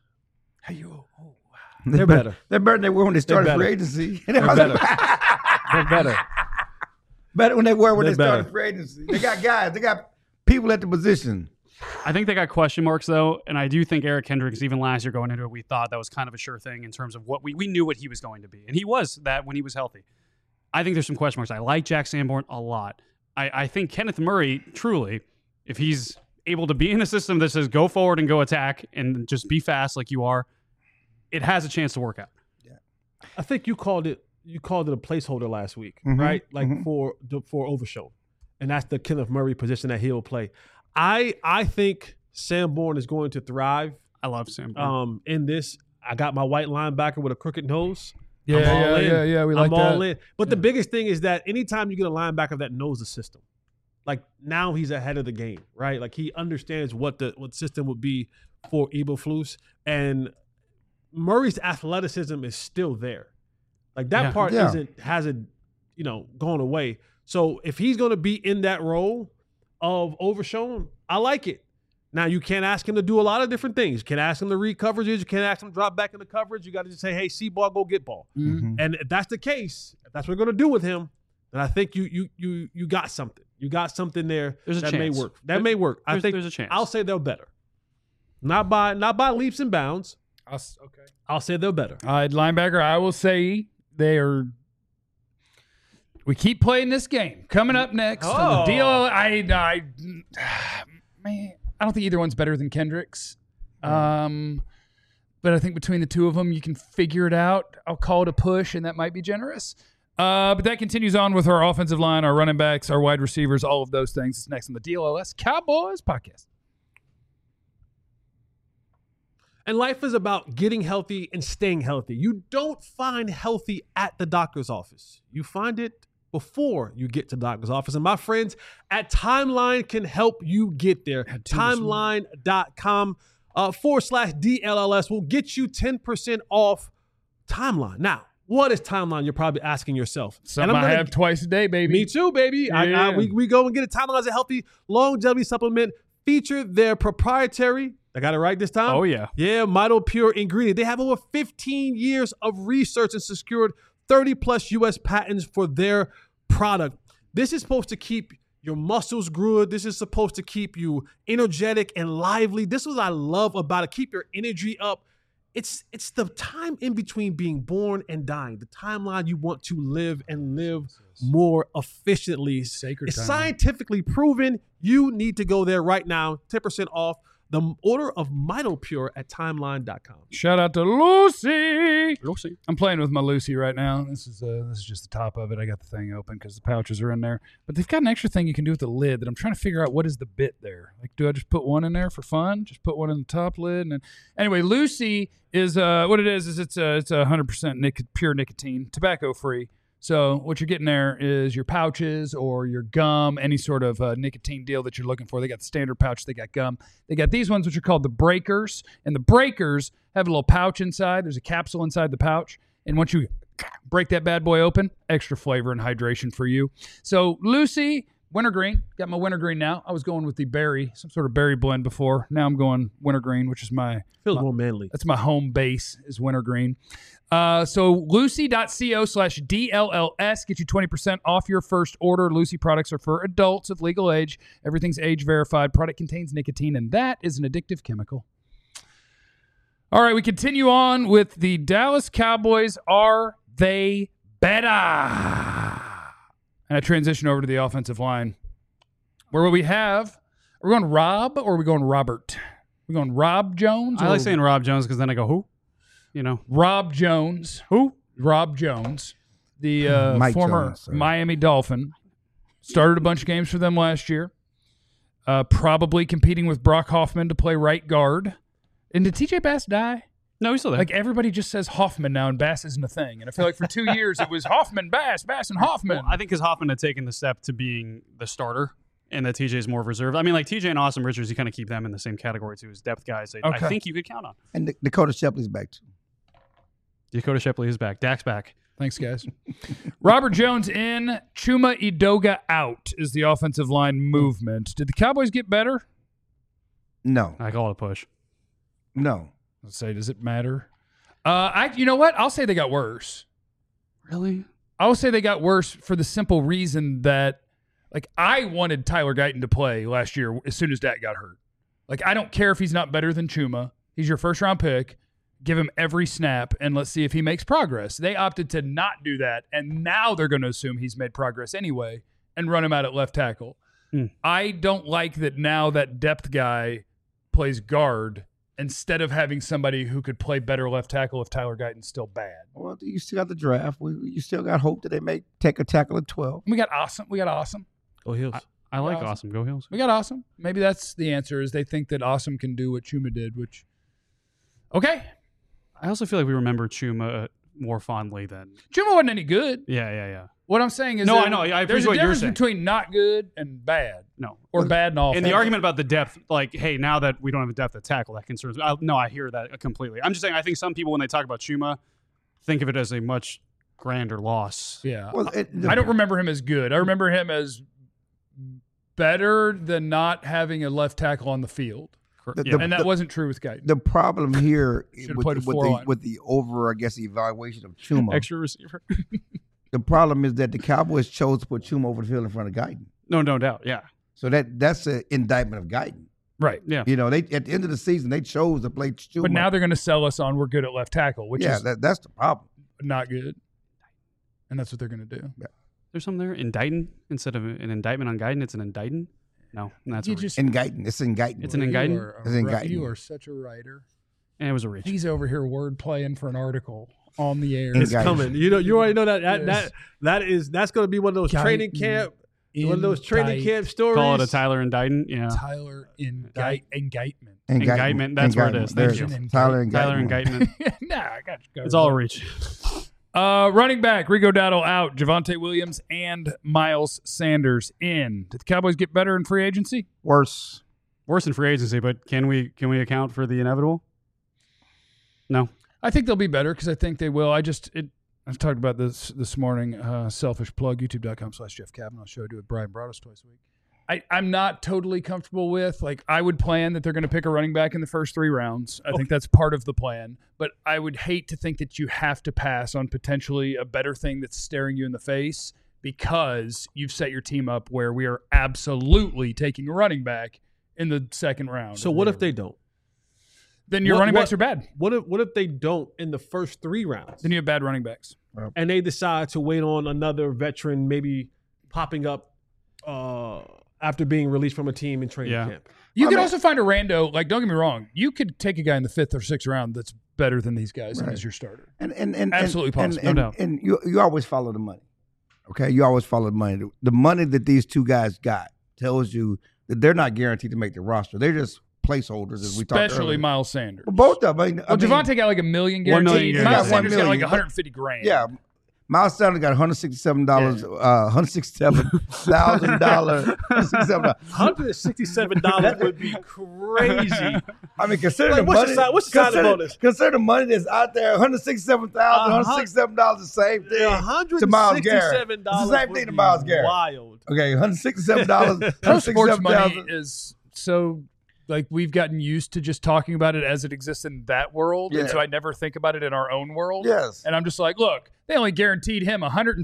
They're better. They're better than they were when they started better. free agency. They're better. They're better. Better when they were when They're they started better. free agency. They got guys. They got people at the position. I think they got question marks, though, and I do think Eric Kendricks, even last year going into it, we thought that was kind of a sure thing in terms of what we knew what he was going to be, and he was that when he was healthy. I think there's some question marks. I like Jack Sanborn a lot. I think Kenneth Murray, truly, if he's able to be in a system that says go forward and go attack and just be fast like you are, it has a chance to work out. I think you called it a placeholder last week, right? Like for Overshow. And that's the Kenneth Murray position that he'll play. I think Sanborn is going to thrive. I love Sanborn. In this, I got my white linebacker with a crooked nose. Yeah, we like I'm that. all in. But the biggest thing is that anytime you get a linebacker that knows the system, like now he's ahead of the game, right? Like he understands what system would be for Eberflus, and Murray's athleticism is still there. Like that part hasn't gone away. So if he's going to be in that role, of Overshown, I like it. Now, you can't ask him to do a lot of different things. You can't ask him to read coverages. You can't ask him to drop back in the coverage. You got to just say, hey, see ball, go get ball. Mm-hmm. And if that's the case, if that's what we're going to do with him, then I think you got something. You got something there There's a that chance. may work. That may work. I think there's a chance. I'll say they're better. Not by leaps and bounds. Okay. I'll say they're better. All right, linebacker, I will say they are. We keep playing this game. Coming up next, on the DL. Man, I don't think either one's better than Kendricks. But I think between the two of them, you can figure it out. I'll call it a push, and that might be generous. But that continues on with our offensive line, our running backs, our wide receivers, all of those things. It's next on the DLLS Cowboys podcast. And life is about getting healthy and staying healthy. You don't find healthy at the doctor's office. You find it before you get to the doctor's office. And my friends at Timeline can help you get there. Timeline.com/DLLS will get you 10% off Timeline. Now, what is Timeline? You're probably asking yourself. Something I have twice a day, baby. Me too, baby. Yeah. We go and get a Timeline as a healthy longevity supplement. Feature their proprietary, I got it right this time? Oh, yeah. Yeah, Mito Pure ingredient. They have over 15 years of research and secured 30-plus U.S. patents for their product. This is supposed to keep your muscles good. This is supposed to keep you energetic and lively. This is what I love about it. Keep your energy up. It's the time in between being born and dying, the timeline you want to live and live more efficiently. Sacred It's timeline. scientifically proven. You need to go there right now. 10% off the order of Mito Pure at timeline.com. Shout out to Lucy. Lucy. I'm playing with my Lucy right now. This is just the top of it. I got the thing open because the pouches are in there. But they've got an extra thing you can do with the lid that I'm trying to figure out what is the bit there. Like, do I just put one in there for fun? Just put one in the top lid? And then, anyway, Lucy is what it is it's 100% pure nicotine, tobacco free. So what you're getting there is your pouches or your gum, any sort of nicotine deal that you're looking for. They got the standard pouch. They got gum. They got these ones, which are called the breakers. And the breakers have a little pouch inside. There's a capsule inside the pouch. And once you break that bad boy open, extra flavor and hydration for you. So Lucy, wintergreen. Got my wintergreen now. I was going with the berry, some sort of berry blend before. Now I'm going wintergreen, which is Feels more manly. that's my home base is wintergreen. So lucy.co/DLLS get you 20% off your first order. Lucy products are for adults of legal age. Everything's age verified. Product contains nicotine, and that is an addictive chemical. All right, we continue on with the Dallas Cowboys. Are they better? And I transition over to the offensive line. Where will we have? Are we going Rob or are we going Robert? We're going Rob Jones? I or like saying Rob Jones because then I go, who? You know. Rob Jones. Who? Rob Jones, the Mike former Jones, sorry. Miami Dolphin. Started a bunch of games for them last year. Probably competing with Brock Hoffman to play right guard. And did TJ Bass die? No, he's still there. Like, everybody just says Hoffman now, and Bass isn't a thing. And I feel like for 2 years it was Hoffman, Bass, and Hoffman. Well, I think because Hoffman had taken the step to being the starter and that TJ is more reserved. I mean, like TJ and Austin Richards, you kind of keep them in the same category too as depth guys. I Okay. think you could count on. And Dakota Shepley's back too. Dakota Shepley is back. Dak's back. Thanks, guys. Robert Jones in, Chuma Edoga out is the offensive line movement. Did the Cowboys get better? No, I call it a push. no. Let's say, does it matter? You know what? I'll say they got worse. Really? I will say they got worse for the simple reason that, like, I wanted Tyler Guyton to play last year as soon as Dak got hurt. Like, I don't care if he's not better than Chuma. He's your first-round pick. Give him every snap, and let's see if he makes progress. They opted to not do that, and now they're going to assume he's made progress anyway and run him out at left tackle. I don't like that now that depth guy plays guard instead of having somebody who could play better left tackle if Tyler Guyton's still bad. Well, you still got the draft. You still got hope that they may take a tackle at 12. We got awesome. Go Hills. I like Awesome. Awesome. Go Hills. We got awesome. Maybe that's the answer, is they think that awesome can do what Chuma did, which, okay. I also feel like we remember Chuma more fondly than. Chuma wasn't any good. Yeah. What I'm saying is, No, that I know. I there's appreciate a what you're difference saying. between not good and bad, No. or bad and awful. And the argument about the depth, like, hey, now that we don't have a depth at tackle, that concerns me. No, I hear that completely. I'm just saying, I think some people, when they talk about Chuma, think of it as a much grander loss. Yeah. Well, I don't remember him as good. I remember him as better than not having a left tackle on the field. And that wasn't true with Guyton. The problem here played a four-line. with the over, I guess, evaluation of Chuma. Extra receiver. The problem is that the Cowboys chose to put Chuma over the field in front of Guyton. No doubt. Yeah. So that's an indictment of Guyton. Right. Yeah. You know, they at the end of the season they chose to play Chuma. But now they're going to sell us on we're good at left tackle, which is that's the problem. not good. And that's what they're going to do. Yeah. There's something there. Indicting instead of an indictment on Guyton, it's an indicting. No, that's a reach. Indicting. It's indicting. It's an indictment. It's indicting. You are such a writer. And it was a reach. He's over here word playing for an article on the air. It's Indictment. coming. You already know that's going to be one of those training camp stories. Call it a Tyler indictment. Yeah. Tyler indictment. Indictment. That's where it is. Thank you. Tyler indictment. Tyler indictment. Nah, I got you. It's all a reach. Running back, Rico Dowdle out, Javonte Williams and Miles Sanders in. Did the Cowboys get better in free agency? Worse. Worse in free agency, but can we account for the inevitable? No. I think they'll be better because I think they will. I've talked about this morning. Selfish plug, youtube.com/Jeff Kavanaugh show. I do it with Brian Broaddus twice a week. I'm not totally comfortable with, like, I would plan that they're going to pick a running back in the first 3 rounds. I think that's part of the plan. But I would hate to think that you have to pass on potentially a better thing that's staring you in the face because you've set your team up where we are absolutely taking a running back in the second round. So what if they don't? Then your running backs are bad. What if they don't in the first 3 rounds? Then you have bad running backs. And they decide to wait on another veteran maybe popping up after being released from a team in training camp. You could also find a rando. Like, don't get me wrong. You could take a guy in the 5th or 6th round that's better than these guys as your starter. And absolutely possible, no doubt. And you always follow the money. Okay, you always follow the money. The money that these 2 guys got tells you that they're not guaranteed to make the roster. They're just placeholders, as we talked earlier. Especially Miles Sanders. Well, both of them. Javonte got like $1 million guaranteed. $1 million Miles guaranteed. Sanders got like $150,000. Yeah. Miles Sanders got $167, $167,000. $167 would be crazy. I mean, consider Like, the money. what's the signing bonus? Consider the money that's out there. $167,000, $167 is the same thing to Miles Garrett. It's the same thing to Miles Garrett. Wild. Okay, $167. Pro sports money $167,000. is so, like, we've gotten used to just talking about it as it exists in that world. Yeah. And so I never think about it in our own world. Yes. And I'm just like, look, they only guaranteed him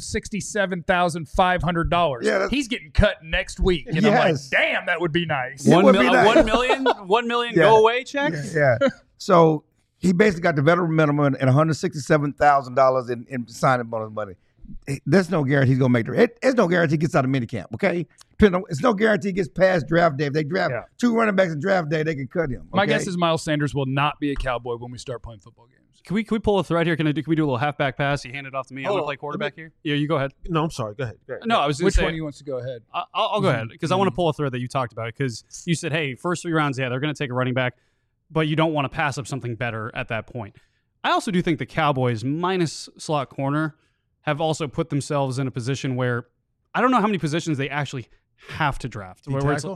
$167,500. Yeah, he's getting cut next week. And I'm like, damn, that would be nice. It would be nice. $1 million go away check? Yeah. So he basically got the veteran minimum and $167,000 in signing bonus money. There's no guarantee he's going to make the – there's no guarantee he gets out of minicamp, okay? It's no guarantee he gets past draft day. If they draft 2 running backs in draft day, they can cut him. Okay? My guess is Miles Sanders will not be a Cowboy when we start playing football games. Can we pull a thread here? Can we do a little halfback pass? You hand it off to me. I'm going to play quarterback here. Yeah, you go ahead. No, I'm sorry. Go ahead. No, I was going to Which say. one of you wants to go ahead? I'll go ahead because I want to pull a thread that you talked about because you said, hey, first 3 rounds, they're going to take a running back, but you don't want to pass up something better at that point. I also do think the Cowboys, minus slot corner, have also put themselves in a position where I don't know how many positions they actually have to draft. Where it's,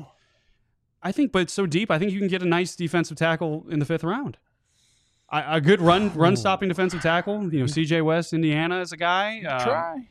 I think, but it's so deep, I think you can get a nice defensive tackle in the 5th round. A good run stopping defensive tackle. You know, C.J. West, Indiana is a guy. Try.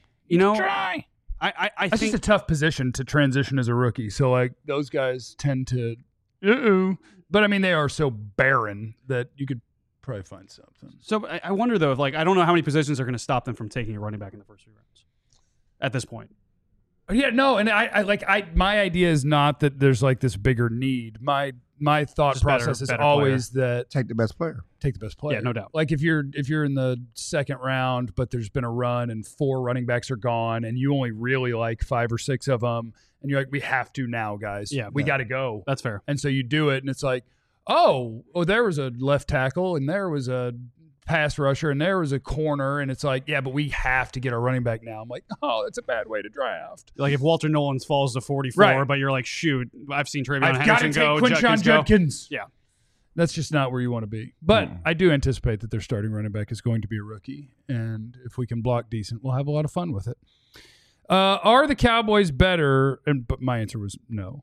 I That's think just a tough position to transition as a rookie. So, like, those guys tend to, but I mean, they are so barren that you could probably find something. So I wonder though, if, like, I don't know how many positions are going to stop them from taking a running back in the first 3 rounds at this point. Yeah, no, and my idea is not that there's like this bigger need. My thought Just process is better always that Take the best player. take the best player. Yeah, no doubt. Like if you're in the 2nd round, but there's been a run and 4 running backs are gone, and you only really like 5 or 6 of them, and you're like, we have to now, guys. Yeah, we got to go. That's fair. And so you do it, and it's like, oh, there was a left tackle, and there was a pass rusher, and there was a corner, and it's like, yeah, but we have to get our running back now. I'm like, oh, that's a bad way to draft. Like if Walter Nolan falls to 44, Right. but you're like, shoot, I've seen Travion I've got to Henderson take go, Quinshon Judkins go. Judkins. Yeah. That's just not where you want to be. But I do anticipate that their starting running back is going to be a rookie, and if we can block decent, we'll have a lot of fun with it. Are the Cowboys better? But my answer was no.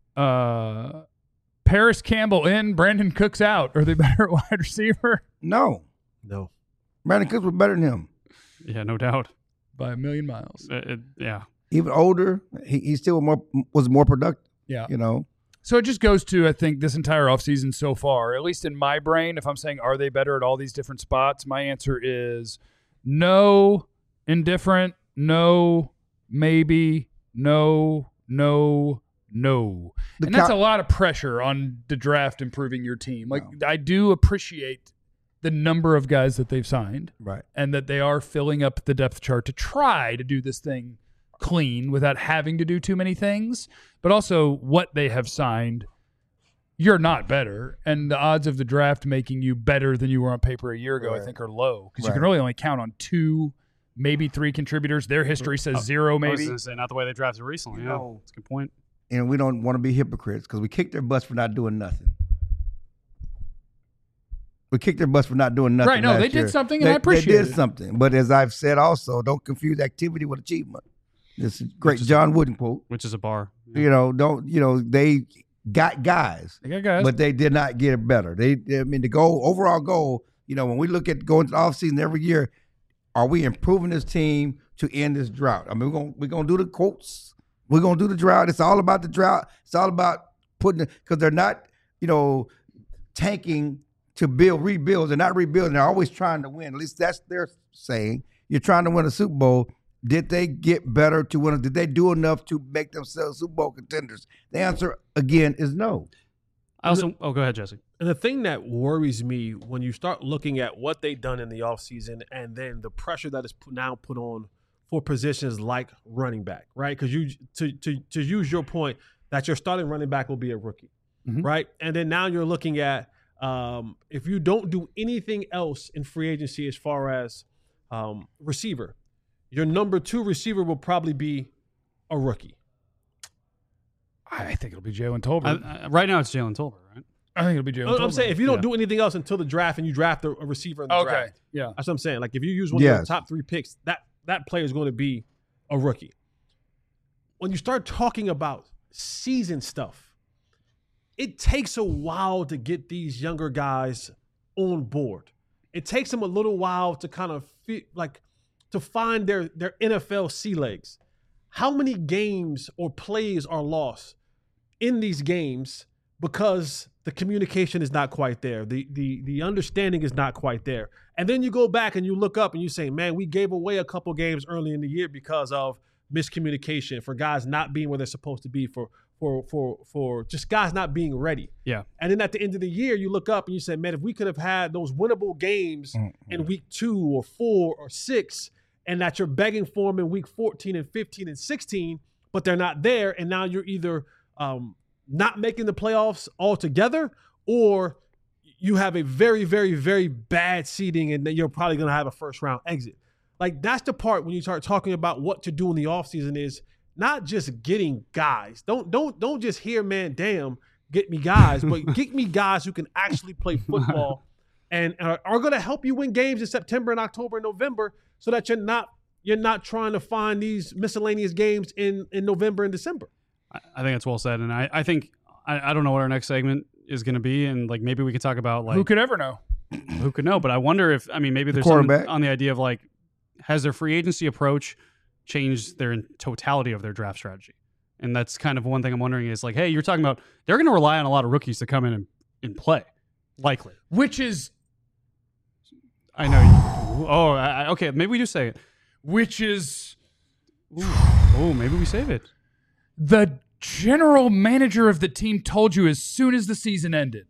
Paris Campbell in, Brandon Cooks out. Are they better at wide receiver? No. Brandon Cooks was better than him. Yeah, no doubt. By a million miles. Yeah. Even older, he still was more productive. Yeah. You know? So it just goes to, I think, this entire offseason so far, at least in my brain, if I'm saying, are they better at all these different spots? My answer is no, indifferent, no, maybe, no. And that's a lot of pressure on the draft improving your team. Like, I do appreciate the number of guys that they've signed. Right. And that they are filling up the depth chart to try to do this thing clean without having to do too many things, but also what they have signed, you're not better, and the odds of the draft making you better than you were on paper a year ago, I think, are low because you can really only count on 2, maybe 3 contributors. Their history says 0, maybe. I was going to say, not the way they drafted recently. Yeah, that's a good point. And we don't want to be hypocrites because we kicked their butts for not doing nothing. We kicked their butts for not doing nothing. Right? No, they did something, and I appreciate it. They did something, but as I've said, also don't confuse activity with achievement. This is great John Wooden quote. Which is a bar. They got guys. But they did not get it better. The overall goal, when we look at going to the offseason every year, are we improving this team to end this drought? I mean, we're gonna do the quotes. We're gonna do the drought. It's all about the drought. It's all about because they're not, tanking to rebuild. They're not rebuilding. They're always trying to win. At least that's their saying. You're trying to win a Super Bowl. Did they get better to win? Did they do enough to make themselves Super Bowl contenders? The answer, again, is no. Go ahead, Jesse. And the thing that worries me when you start looking at what they've done in the offseason and then the pressure that is now put on for positions like running back, right? Because to use your point that your starting running back will be a rookie, right? And then now you're looking at if you don't do anything else in free agency as far as receiver, your number 2 receiver will probably be a rookie. I think it'll be Jalen Tolbert. Right now it's Jalen Tolbert, right? I think it'll be Jalen Tolbert. I'm saying if you don't do anything else until the draft and you draft a receiver in the draft. Yeah. That's what I'm saying. Like if you use one of your top 3 picks, that player is going to be a rookie. When you start talking about season stuff, it takes a while to get these younger guys on board. It takes them a little while to kind of feel like to find their NFL sea legs. How many games or plays are lost in these games because the communication is not quite there. The understanding is not quite there. And then you go back and you look up and you say, man, we gave away a couple games early in the year because of miscommunication, for guys not being where they're supposed to be, for just guys not being ready. Yeah. And then at the end of the year, you look up and you say, man, if we could have had those winnable games in week 2 or 4 or 6, and that you're begging for them in week 14 and 15 and 16, but they're not there, and now you're either not making the playoffs altogether, or you have a very, very, very bad seeding, and then you're probably going to have a first-round exit. Like, that's the part when you start talking about what to do in the offseason is not just getting guys. Don't just hear, man, damn, get me guys, but get me guys who can actually play football and are going to help you win games in September and October and November, so that you're not trying to find these miscellaneous games in November and December. I think that's well said, and I think I don't know what our next segment is going to be, and like maybe we could talk about like who could ever know, who could know. But I wonder if maybe there's something on the idea of like, has their free agency approach changed their totality of their draft strategy? And that's kind of one thing I'm wondering is like, hey, you're talking about they're going to rely on a lot of rookies to come in and play, likely, which is. I know. Okay. Maybe we do say it. Which is, maybe we save it. The general manager of the team told you as soon as the season ended.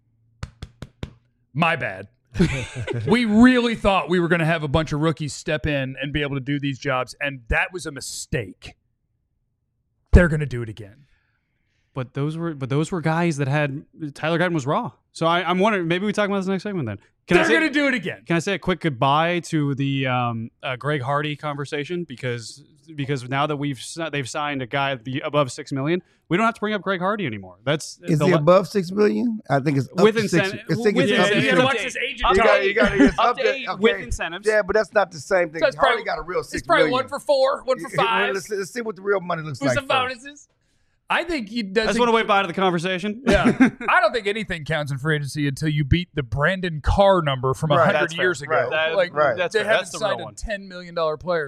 My bad. We really thought we were going to have a bunch of rookies step in and be able to do these jobs, and that was a mistake. They're going to do it again. But those were guys that had Tyler Guyton was raw. So I'm wondering, maybe we talk about this next segment then. They're going to do it again. Can I say a quick goodbye to the Greg Hardy conversation because now that they've signed a guy above $6 million, we don't have to bring up Greg Hardy anymore. Is he above $6 million? I think it's up with to incentive. You got to watch his agent. With incentives. Yeah, but that's not the same thing. So Hardy got a real $6 million. It's probably 1 for 4, 1 for 5. Let's see what the real money looks like. With some bonuses. I think he does. I just want to wait by to the conversation. Yeah. I don't think anything counts in free agency until you beat the Brandon Carr number from 100 years ago. Right. That's fair. they haven't That's the signed real a one. $10 million player.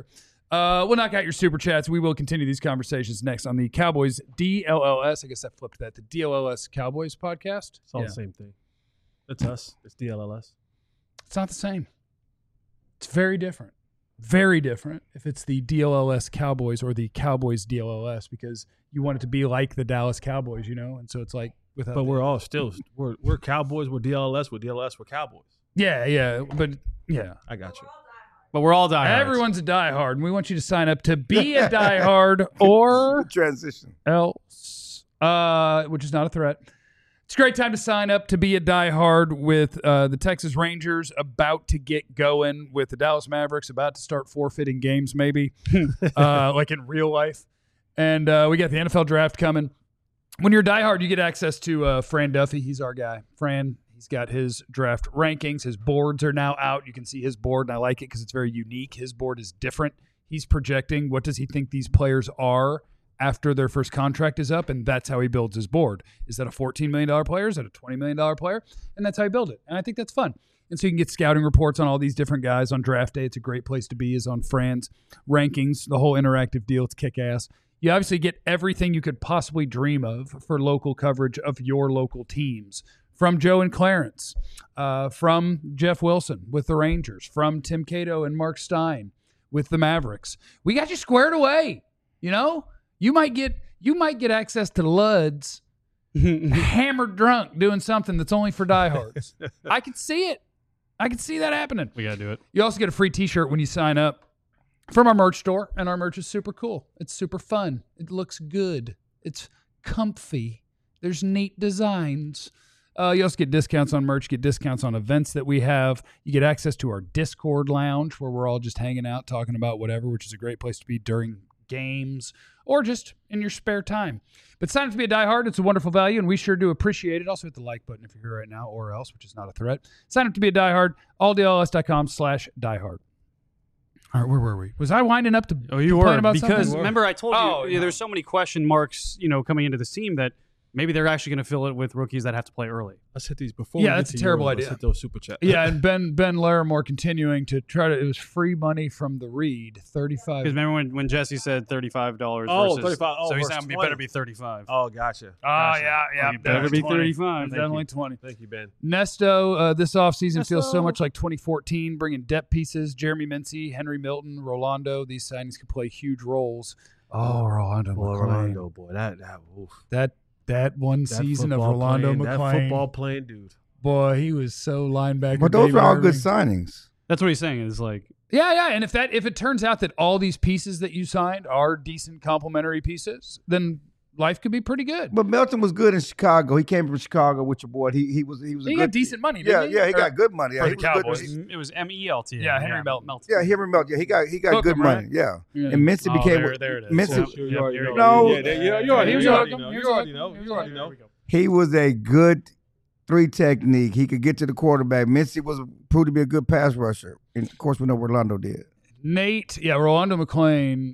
We'll knock out your super chats. We will continue these conversations next on the Cowboys DLLS. I guess I flipped that. The DLLS Cowboys podcast. It's all the same thing. It's us. It's DLLS. It's not the same. It's very different. Very different if it's the DLLS Cowboys or the Cowboys DLLS, because you want it to be like the Dallas Cowboys, and so it's like without. But we're all still we're Cowboys. We're DLLS. We're DLS. We're Cowboys. Yeah, but yeah, I got you. But we're all diehards. Everyone's a diehard, and we want you to sign up to be a diehard or transition else, which is not a threat. It's a great time to sign up to be a diehard with the Texas Rangers about to get going, with the Dallas Mavericks about to start forfeiting games, maybe, like in real life. And we got the NFL draft coming. When you're a diehard, you get access to Fran Duffy. He's our guy. Fran, he's got his draft rankings. His boards are now out. You can see his board, and I like it because it's very unique. His board is different. He's projecting what does he think these players are after their first contract is up, and that's how he builds his board. Is that a $14 million player? Is that a $20 million player? And that's how he builds it. And I think that's fun. And so you can get scouting reports on all these different guys on draft day. It's a great place to be, is on Fran's rankings, the whole interactive deal. It's kick-ass. You obviously get everything you could possibly dream of for local coverage of your local teams. From Joe and Clarence, from Jeff Wilson with the Rangers, from Tim Cato and Mark Stein with the Mavericks. We got you squared away, You might get access to Luds hammered drunk doing something that's only for diehards. I can see it. I can see that happening. We got to do it. You also get a free t-shirt when you sign up from our merch store, and our merch is super cool. It's super fun. It looks good. It's comfy. There's neat designs. You also get discounts on merch, get discounts on events that we have. You get access to our Discord lounge where we're all just hanging out, talking about whatever, which is a great place to be during games or just in your spare time. But sign up to be a diehard. It's a wonderful value, and we sure do appreciate it. Also hit the like button if you're here right now, or else, which is not a threat. Sign up to be a diehard, alldls.com/diehard. All right, where were we? Was I winding up to you were, about because something? remember I told you there's so many question marks, coming into this team that maybe they're actually going to fill it with rookies that have to play early. Let's hit these before. Yeah, we that's get a to terrible yours. idea. Let's hit those super chats. Yeah, and Ben Larimore continuing to try to. It was free money from the Reed, $35. Because remember when Jesse said $35 Oh, versus, 35. Oh, so he's versus saying it 20. better be 35. Oh, gotcha. Yeah. It better be 35. It's definitely 20. Thank you, Ben. Nesto, this offseason feels so much like 2014, bringing depth pieces. Jeremy Mincy, Henry Milton, Rolando. These signings could play huge roles. Oh, Rolando McClain. Rolando, boy, oof. That one season of football Rolando playing, McClain. that football playing dude. Boy, he was so linebacker. But those David are all Irving. good signings. That's what he's saying. Is like, Yeah. And if it turns out that all these pieces that you signed are decent complementary pieces, then life could be pretty good. But Melton was good in Chicago. He came from Chicago with your boy. He was a He good, got decent money, didn't he? Yeah, he got good money. Yeah, for he the was good. Cowboys. it was MELT. Yeah, Henry Melton. Yeah, Henry Melton. Yeah, he got Hook good him, money. right? Yeah. Yeah. And Mincy became there it is. Mincy. Yeah. You already know. No. You already He was know. hooking. You already know. You already know. He was a good 3 technique. He could get to the quarterback. Mincy proved to be a good pass rusher. And of course, we know what Rolando did. Nate, Rolando McClain.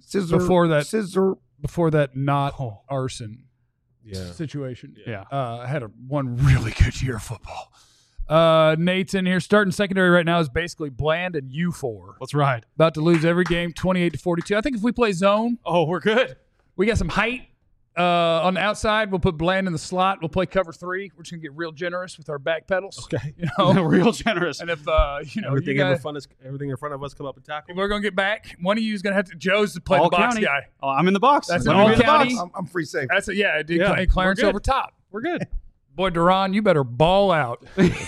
Before that, not arson situation. Yeah. Had one really good year of football. Nate's in here. Starting secondary right now is basically Bland and U4. Let's ride. About to lose every game, 28-42. I think if we play zone, We're good. we got some height. On the outside, we'll put Bland in the slot. We'll play cover 3. We're just gonna get real generous with our back pedals. Okay. Real generous. And if Everything you guys, in front of us come up and tackle. we're gonna get back. One of you is gonna have to. Joe's to play All the box county. guy. Oh, I'm in the box. That's Let an me all be in the box. county. I'm free safe. That's Clarence we're good. over top. We're good. Boy, Duran, you better ball out.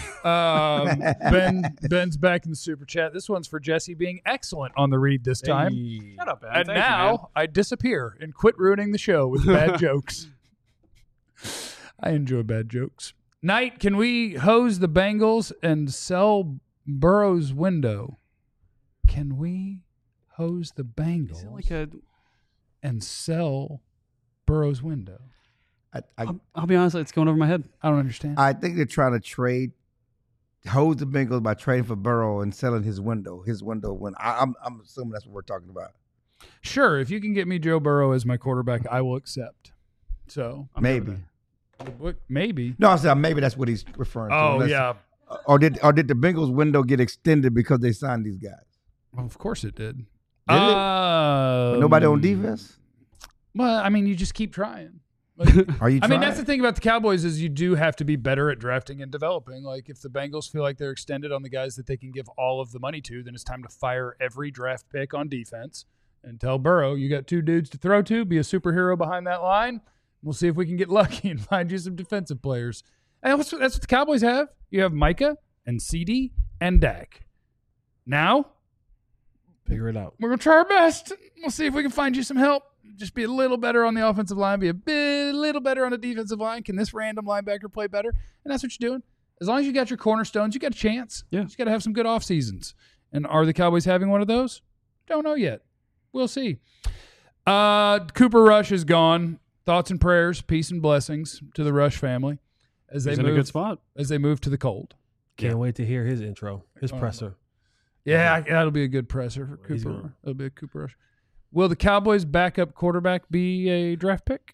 Ben's back in the super chat. This one's for Jesse being excellent on the read this time. Hey. Shut up, Ben. And Thank you, now man. I disappear and quit ruining the show with bad jokes. I enjoy bad jokes. Knight, can we hose the Bengals and sell Burrow's window? Can we hose the Bengals Is it like a? and sell Burrow's window? I'll be honest. It's going over my head. I don't understand. I think they're trying to hose the Bengals by trading for Burrow and selling his window. When I'm assuming that's what we're talking about. Sure, if you can get me Joe Burrow as my quarterback, I will accept. So Maybe. maybe. No, I'm saying maybe that's what he's referring to. Oh Unless- yeah, Or did the Bengals window get extended because they signed these guys? well, of course it did. But nobody on defense? Well, I mean, you just keep trying. Like, Are you I trying? mean, that's the thing about the Cowboys is you do have to be better at drafting and developing. Like, if the Bengals feel like they're extended on the guys that they can give all of the money to, then it's time to fire every draft pick on defense and tell Burrow, you got 2 dudes to throw to, be a superhero behind that line. We'll see if we can get lucky and find you some defensive players. And that's what the Cowboys have. You have Micah and CD and Dak. Now, Figure it out. we're going to try our best. We'll see if we can find you some help. Just be a little better on the offensive line, be a little better on the defensive line. Can this random linebacker play better? And that's what you're doing. As long as you got your cornerstones, you got a chance. Yeah. You just got to have some good off seasons. And are the Cowboys having one of those? Don't know yet. We'll see. Cooper Rush is gone. Thoughts and prayers, peace and blessings to the Rush family as He's they in move a good spot. as they move to the cold. Can't wait to hear his intro, his presser. Yeah, that'll be a good presser for He's Cooper. gonna- That'll be a Cooper Rush. Will the Cowboys' backup quarterback be a draft pick?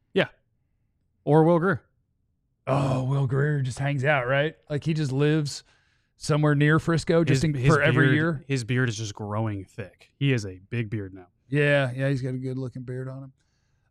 Or Will Grier. Oh, Will Grier just hangs out, right? Like he just lives somewhere near Frisco just for every beard- year. His beard is just growing thick. He is a big beard now. Yeah, he's got a good looking beard on him.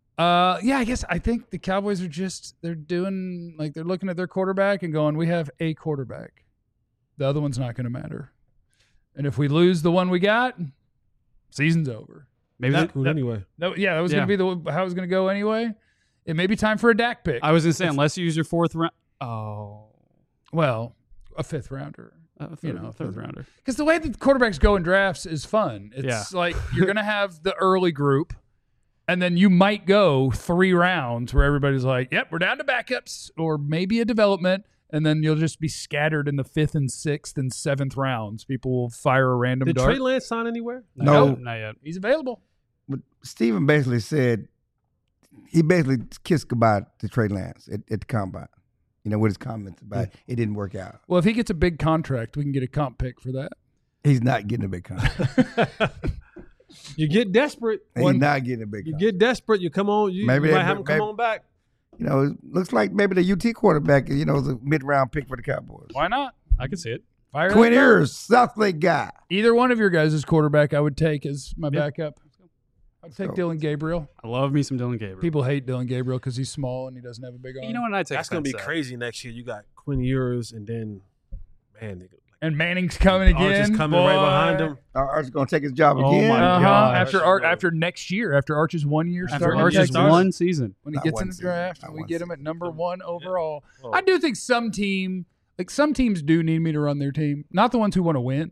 I think the Cowboys are they're doing like they're looking at their quarterback and going, we have a quarterback. The other one's not going to matter. And if we lose the one we got, season's over. Maybe That- Good anyway. No, yeah, that was going to be how it was going to go anyway. It may be time for a Dak pick. I was going to say, unless you use your 4th round. Oh. Well, a 5th rounder. Third rounder. Because the way that quarterbacks go in drafts is fun. It's like you're going to have the early group, and then you might go 3 rounds where everybody's like, yep, we're down to backups or maybe a development, and then you'll just be scattered in the 5th and 6th and 7th rounds. People will fire a random Did dart. Trey Lance sign anywhere? No. Not yet. He's available. But Steven basically said he basically kissed goodbye to Trey Lance at the combine. You know, with his comments about it didn't work out. Well, if he gets a big contract, we can get a comp pick for that. He's not getting a big contract. You get desperate. He's not getting a big You contract. get desperate. You come on. You Maybe might they- have him come maybe- on back. You know, it looks like maybe the UT quarterback, you know, is a mid-round pick for the Cowboys. Why not? I could see it. Fire Quinn that dart. Ewers, South Lake guy. Either one of your guys' quarterback I would take as my backup. I'd take So- Dylan Gabriel. I love me some Dylan Gabriel. People hate Dylan Gabriel because he's small and he doesn't have a big arm. You know what? I'd take That's going to be offense, crazy next year. You got Quinn Ewers and then, man, And Manning's coming Arch again. is coming right Boy. behind him. Arch's going to take his job Oh again. my Uh-huh. gosh. After next year, after Arch's 1 year After start, Arch's starts. one season. when he Not gets one in the season. draft, Not and we one get him at number 1 overall. Oh. I do think some teams do need me to run their team. Not the ones who want to win.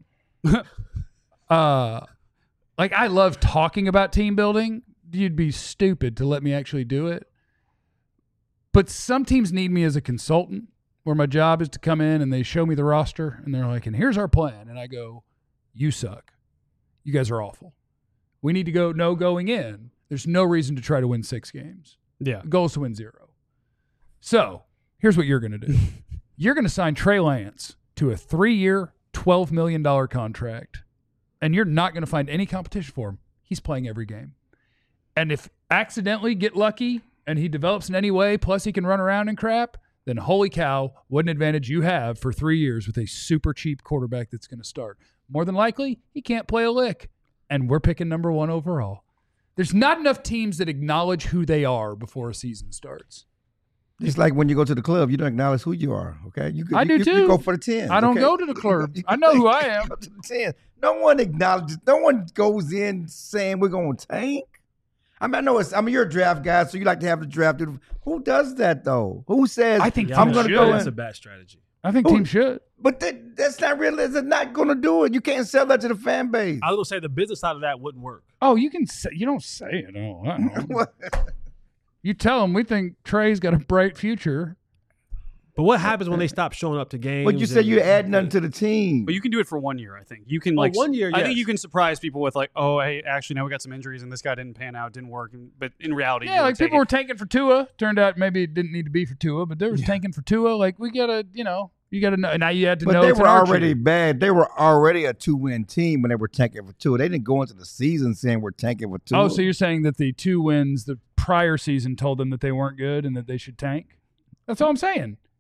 Like I love talking about team building. You'd be stupid to let me actually do it. But some teams need me as a consultant where my job is to come in and they show me the roster and they're like, and here's our plan. And I go, you suck. You guys are awful. We need to going in. There's no reason to try to win 6 games. Yeah. The goal is to win 0. So here's what you're going to do. You're going to sign Trey Lance to a 3-year, $12 million contract, and you're not going to find any competition for him. He's playing every game. And if accidentally get lucky and he develops in any way, plus he can run around and crap, then holy cow, what an advantage you have for 3 years with a super cheap quarterback that's going to start. More than likely, he can't play a lick, and we're picking number 1 overall. There's not enough teams that acknowledge who they are before a season starts. Just like when you go to the club, you don't acknowledge who you are. Okay, I do too. You go for the 10. I don't okay? go to the club. I know who I am. Go to the 10. No one acknowledges. No one goes in saying we're going to tank. I mean, you're a draft guy, so you like to have the draft. Who does that though? Who says I think I'm teams going to should. go That's in? a bad strategy. I think teams should. But that's not real. They're not going to do it. You can't sell that to the fan base. I was going to say the business side of that wouldn't work. Oh, you can say, you don't say it. Oh, I don't know. What? You tell them we think Trey's got a bright future. But what happens when they stop showing up to games? But you said and- you add nothing to the team. But you can do it for 1 year, I think. You can 1 year, I think yes. you can surprise people with like, oh, hey, actually, now we got some injuries and this guy didn't pan out, didn't work. But in reality, Yeah, you like would take people were it. tanking for Tua. Turned out maybe it didn't need to be for Tua, but they were tanking for Tua. Like we gotta, you got to know. Now you had to But know. they it's were an Archer. already bad. They were already a 2-win team when they were tanking for Tua. They didn't go into the season saying we're tanking for Tua. Oh, so you're saying that the 2 wins the prior season told them that they weren't good and that they should tank? That's all I'm saying.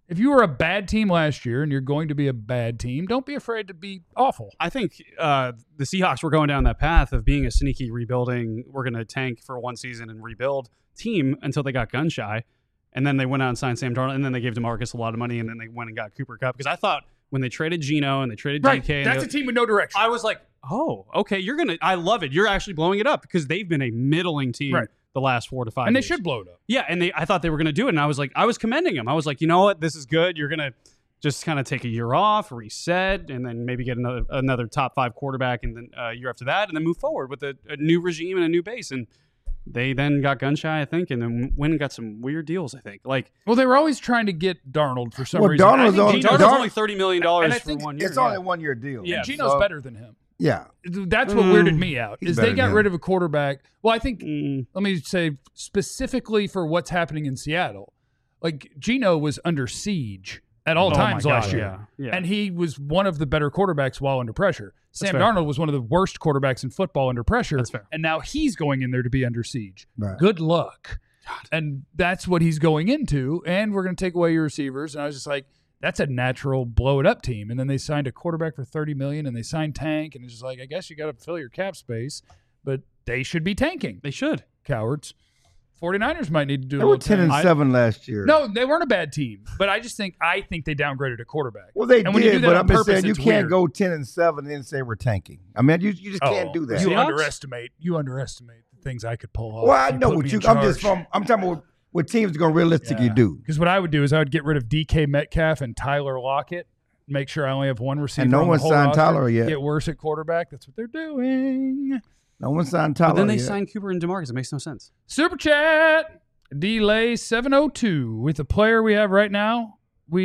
If you were a bad team last year and you're going to be a bad team, don't be afraid to be awful. I think the Seahawks were going down that path of being a sneaky rebuilding, we're going to tank for one season and rebuild team until they got gun shy. And then they went out and signed Sam Darnold, and then they gave DeMarcus a lot of money, and then they went and got Cooper Kupp. Because I thought when they traded Geno and they traded DK. That's a team with no direction. I was like, oh, okay, I love it. You're actually blowing it up because they've been a middling team the last 4 to 5 and years. they should blow it up. Yeah, and I thought they were going to do it, and I was commending them. I was like, you know what? This is good. You're going to just kind of take a year off, reset, and then maybe get another top 5 quarterback and then year after that, and then move forward with a new regime and a new base. And they then got gun shy, I think, and then went and got some weird deals, I think. Well, they were always trying to get Darnold for some reason. Darnold's only $30 million for 1 year. It's only a 1 year deal. Yeah, Geno's better than him. Yeah. That's what weirded me out, is they got than rid of a quarterback. Well, I think, let me say, specifically for what's happening in Seattle, like Geno was under siege at all times last year. Yeah. And he was one of the better quarterbacks while under pressure. Sam Darnold was one of the worst quarterbacks in football under pressure. That's fair. And now he's going in there to be under siege. Right. Good luck. And that's what he's going into. And we're going to take away your receivers. And I was just like, that's a natural blow it up team. And then they signed a quarterback for $30 million and they signed Tank. And it's just like, I guess you got to fill your cap space, but they should be tanking. They should. Cowards. 49ers might need to do They a were little 10-7 last year. No, they weren't a bad team, but I think they downgraded a quarterback. Well, they and when you do did, that but on I'm just purpose, saying you it's can't weird. go 10-7 and then say we're tanking. I mean, you just can't do that. You Seahawks? underestimate the things I could pull off. Well, I know put what me you. in I'm charge. I'm talking about what teams are going to realistically do. Because what I would do is I would get rid of DK Metcalf and Tyler Lockett. Make sure I only have one receiver. And no on the one whole signed roster, Tyler yet. Get worse at quarterback. That's what they're doing. No one signed Tyler. But then they yet. signed Cooper and DeMarcus. It makes no sense. Super chat. Delay 702. With the player we have right now,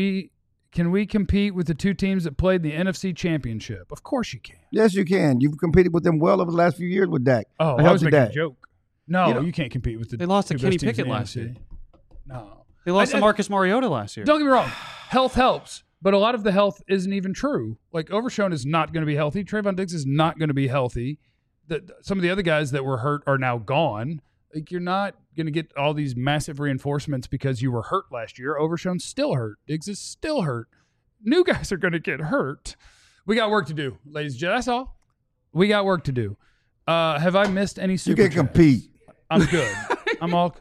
can we compete with the two teams that played the NFC Championship? Of course you can. Yes, you can. You've competed with them well over the last few years with Dak. Oh, I I was helped making Dak. a joke. No, You know- you can't compete with the. They lost to two Kenny best teams Pickett in the last NFC. year. No, They lost I- to Marcus Mariota last year. Don't get me wrong. Health helps, but a lot of the health isn't even true. Like Overshown is not going to be healthy. Trayvon Diggs is not going to be healthy. Some of the other guys that were hurt are now gone. Like you're not going to get all these massive reinforcements because you were hurt last year. Overshown's still hurt. Diggs is still hurt. New guys are going to get hurt. We got work to do, ladies and gentlemen. That's all. We got work to do. Have I missed any You super can chats? compete. I'm good. I'm all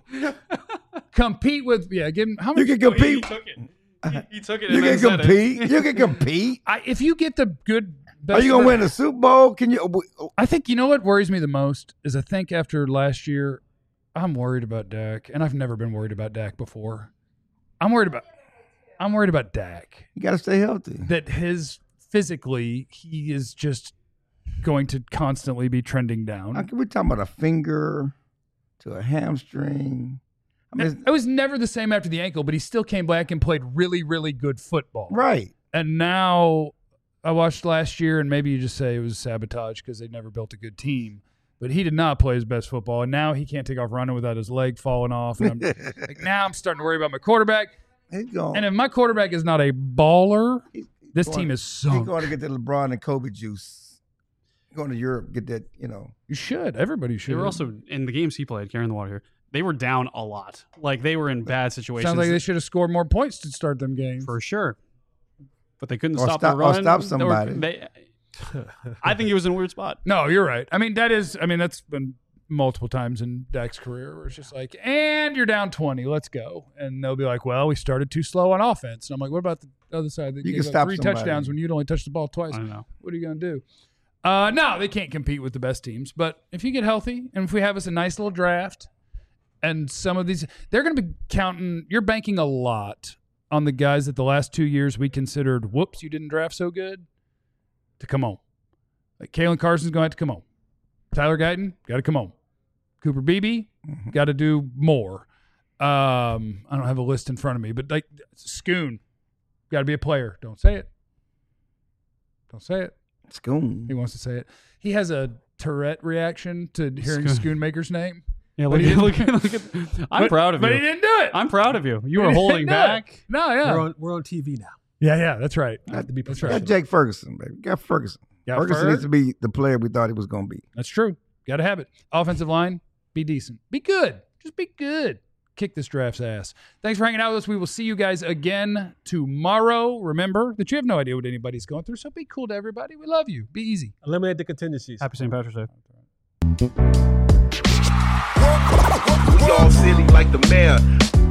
compete with. Yeah, give him how You much. can compete. He took it. You can compete. You can compete. If you get the good. Are you gonna win the Super Bowl? Can you? I think you know what worries me the most is I think after last year, I'm worried about Dak, and I've never been worried about Dak before. I'm worried about Dak. You got to stay healthy. That physically he is just going to constantly be trending down. We're talking about a finger to a hamstring. I mean, It was never the same after the ankle, but he still came back and played really, really good football. right. And now I watched last year, and maybe you just say it was sabotage because they never built a good team. But he did not play his best football, and now he can't take off running without his leg falling off. And now I'm starting to worry about my quarterback. He's going. And if my quarterback is not a baller, this going- team is He's sunk. going to get the LeBron and Kobe juice. Going to Europe, get that. You should. Everybody should. They were also in the games he played, carrying the water here. They were down a lot. Like they were in bad situations. Sounds like they should have scored more points to start them games. for sure. But they couldn't Or stop stop- the or run. stop They were- somebody. I think he was in a weird spot. No, you're right. I mean, that's been multiple times in Dak's career where it's just like, and you're down 20, let's go. And they'll be like, well, we started too slow on offense. And I'm like, what about the other side that You gave can up stop 3 somebody. touchdowns when you'd only touched the ball twice? I don't know. What are you going to do? No, they can't compete with the best teams. But if you get healthy and if we have us a nice little draft and some of these, they're going to be counting, you're banking a lot on the guys that the last 2 years we considered, whoops, you didn't draft so good, to come on. Like Kalen Carson's going to have to come on. Tyler Guyton, got to come on. Cooper Beebe, got to do more. I don't have a list in front of me, but like Schoon, got to be a player. Don't say it. Don't say it. Schoon. He wants to say it. He has a Tourette reaction to hearing Schoonmaker's name. Yeah, But look, he look, didn't- look at. I'm proud of you. But he didn't do it. I'm proud of you. You were He didn't holding do it. back. No, yeah. We're on TV now. Yeah, that's right. I have to be Got professional. Jake Ferguson, baby. Got Ferguson. Got Ferguson Ferg. needs to be the player we thought he was going to be. That's true. Got to have it. Offensive line, be decent. Be good. Just be good. kick this draft's ass. Thanks for hanging out with us. We will see you guys again tomorrow. Remember that you have no idea what anybody's going through, so be cool to everybody. We love you. Be easy. Eliminate the contingencies. Happy St. Patrick's Day. We all silly like the mayor.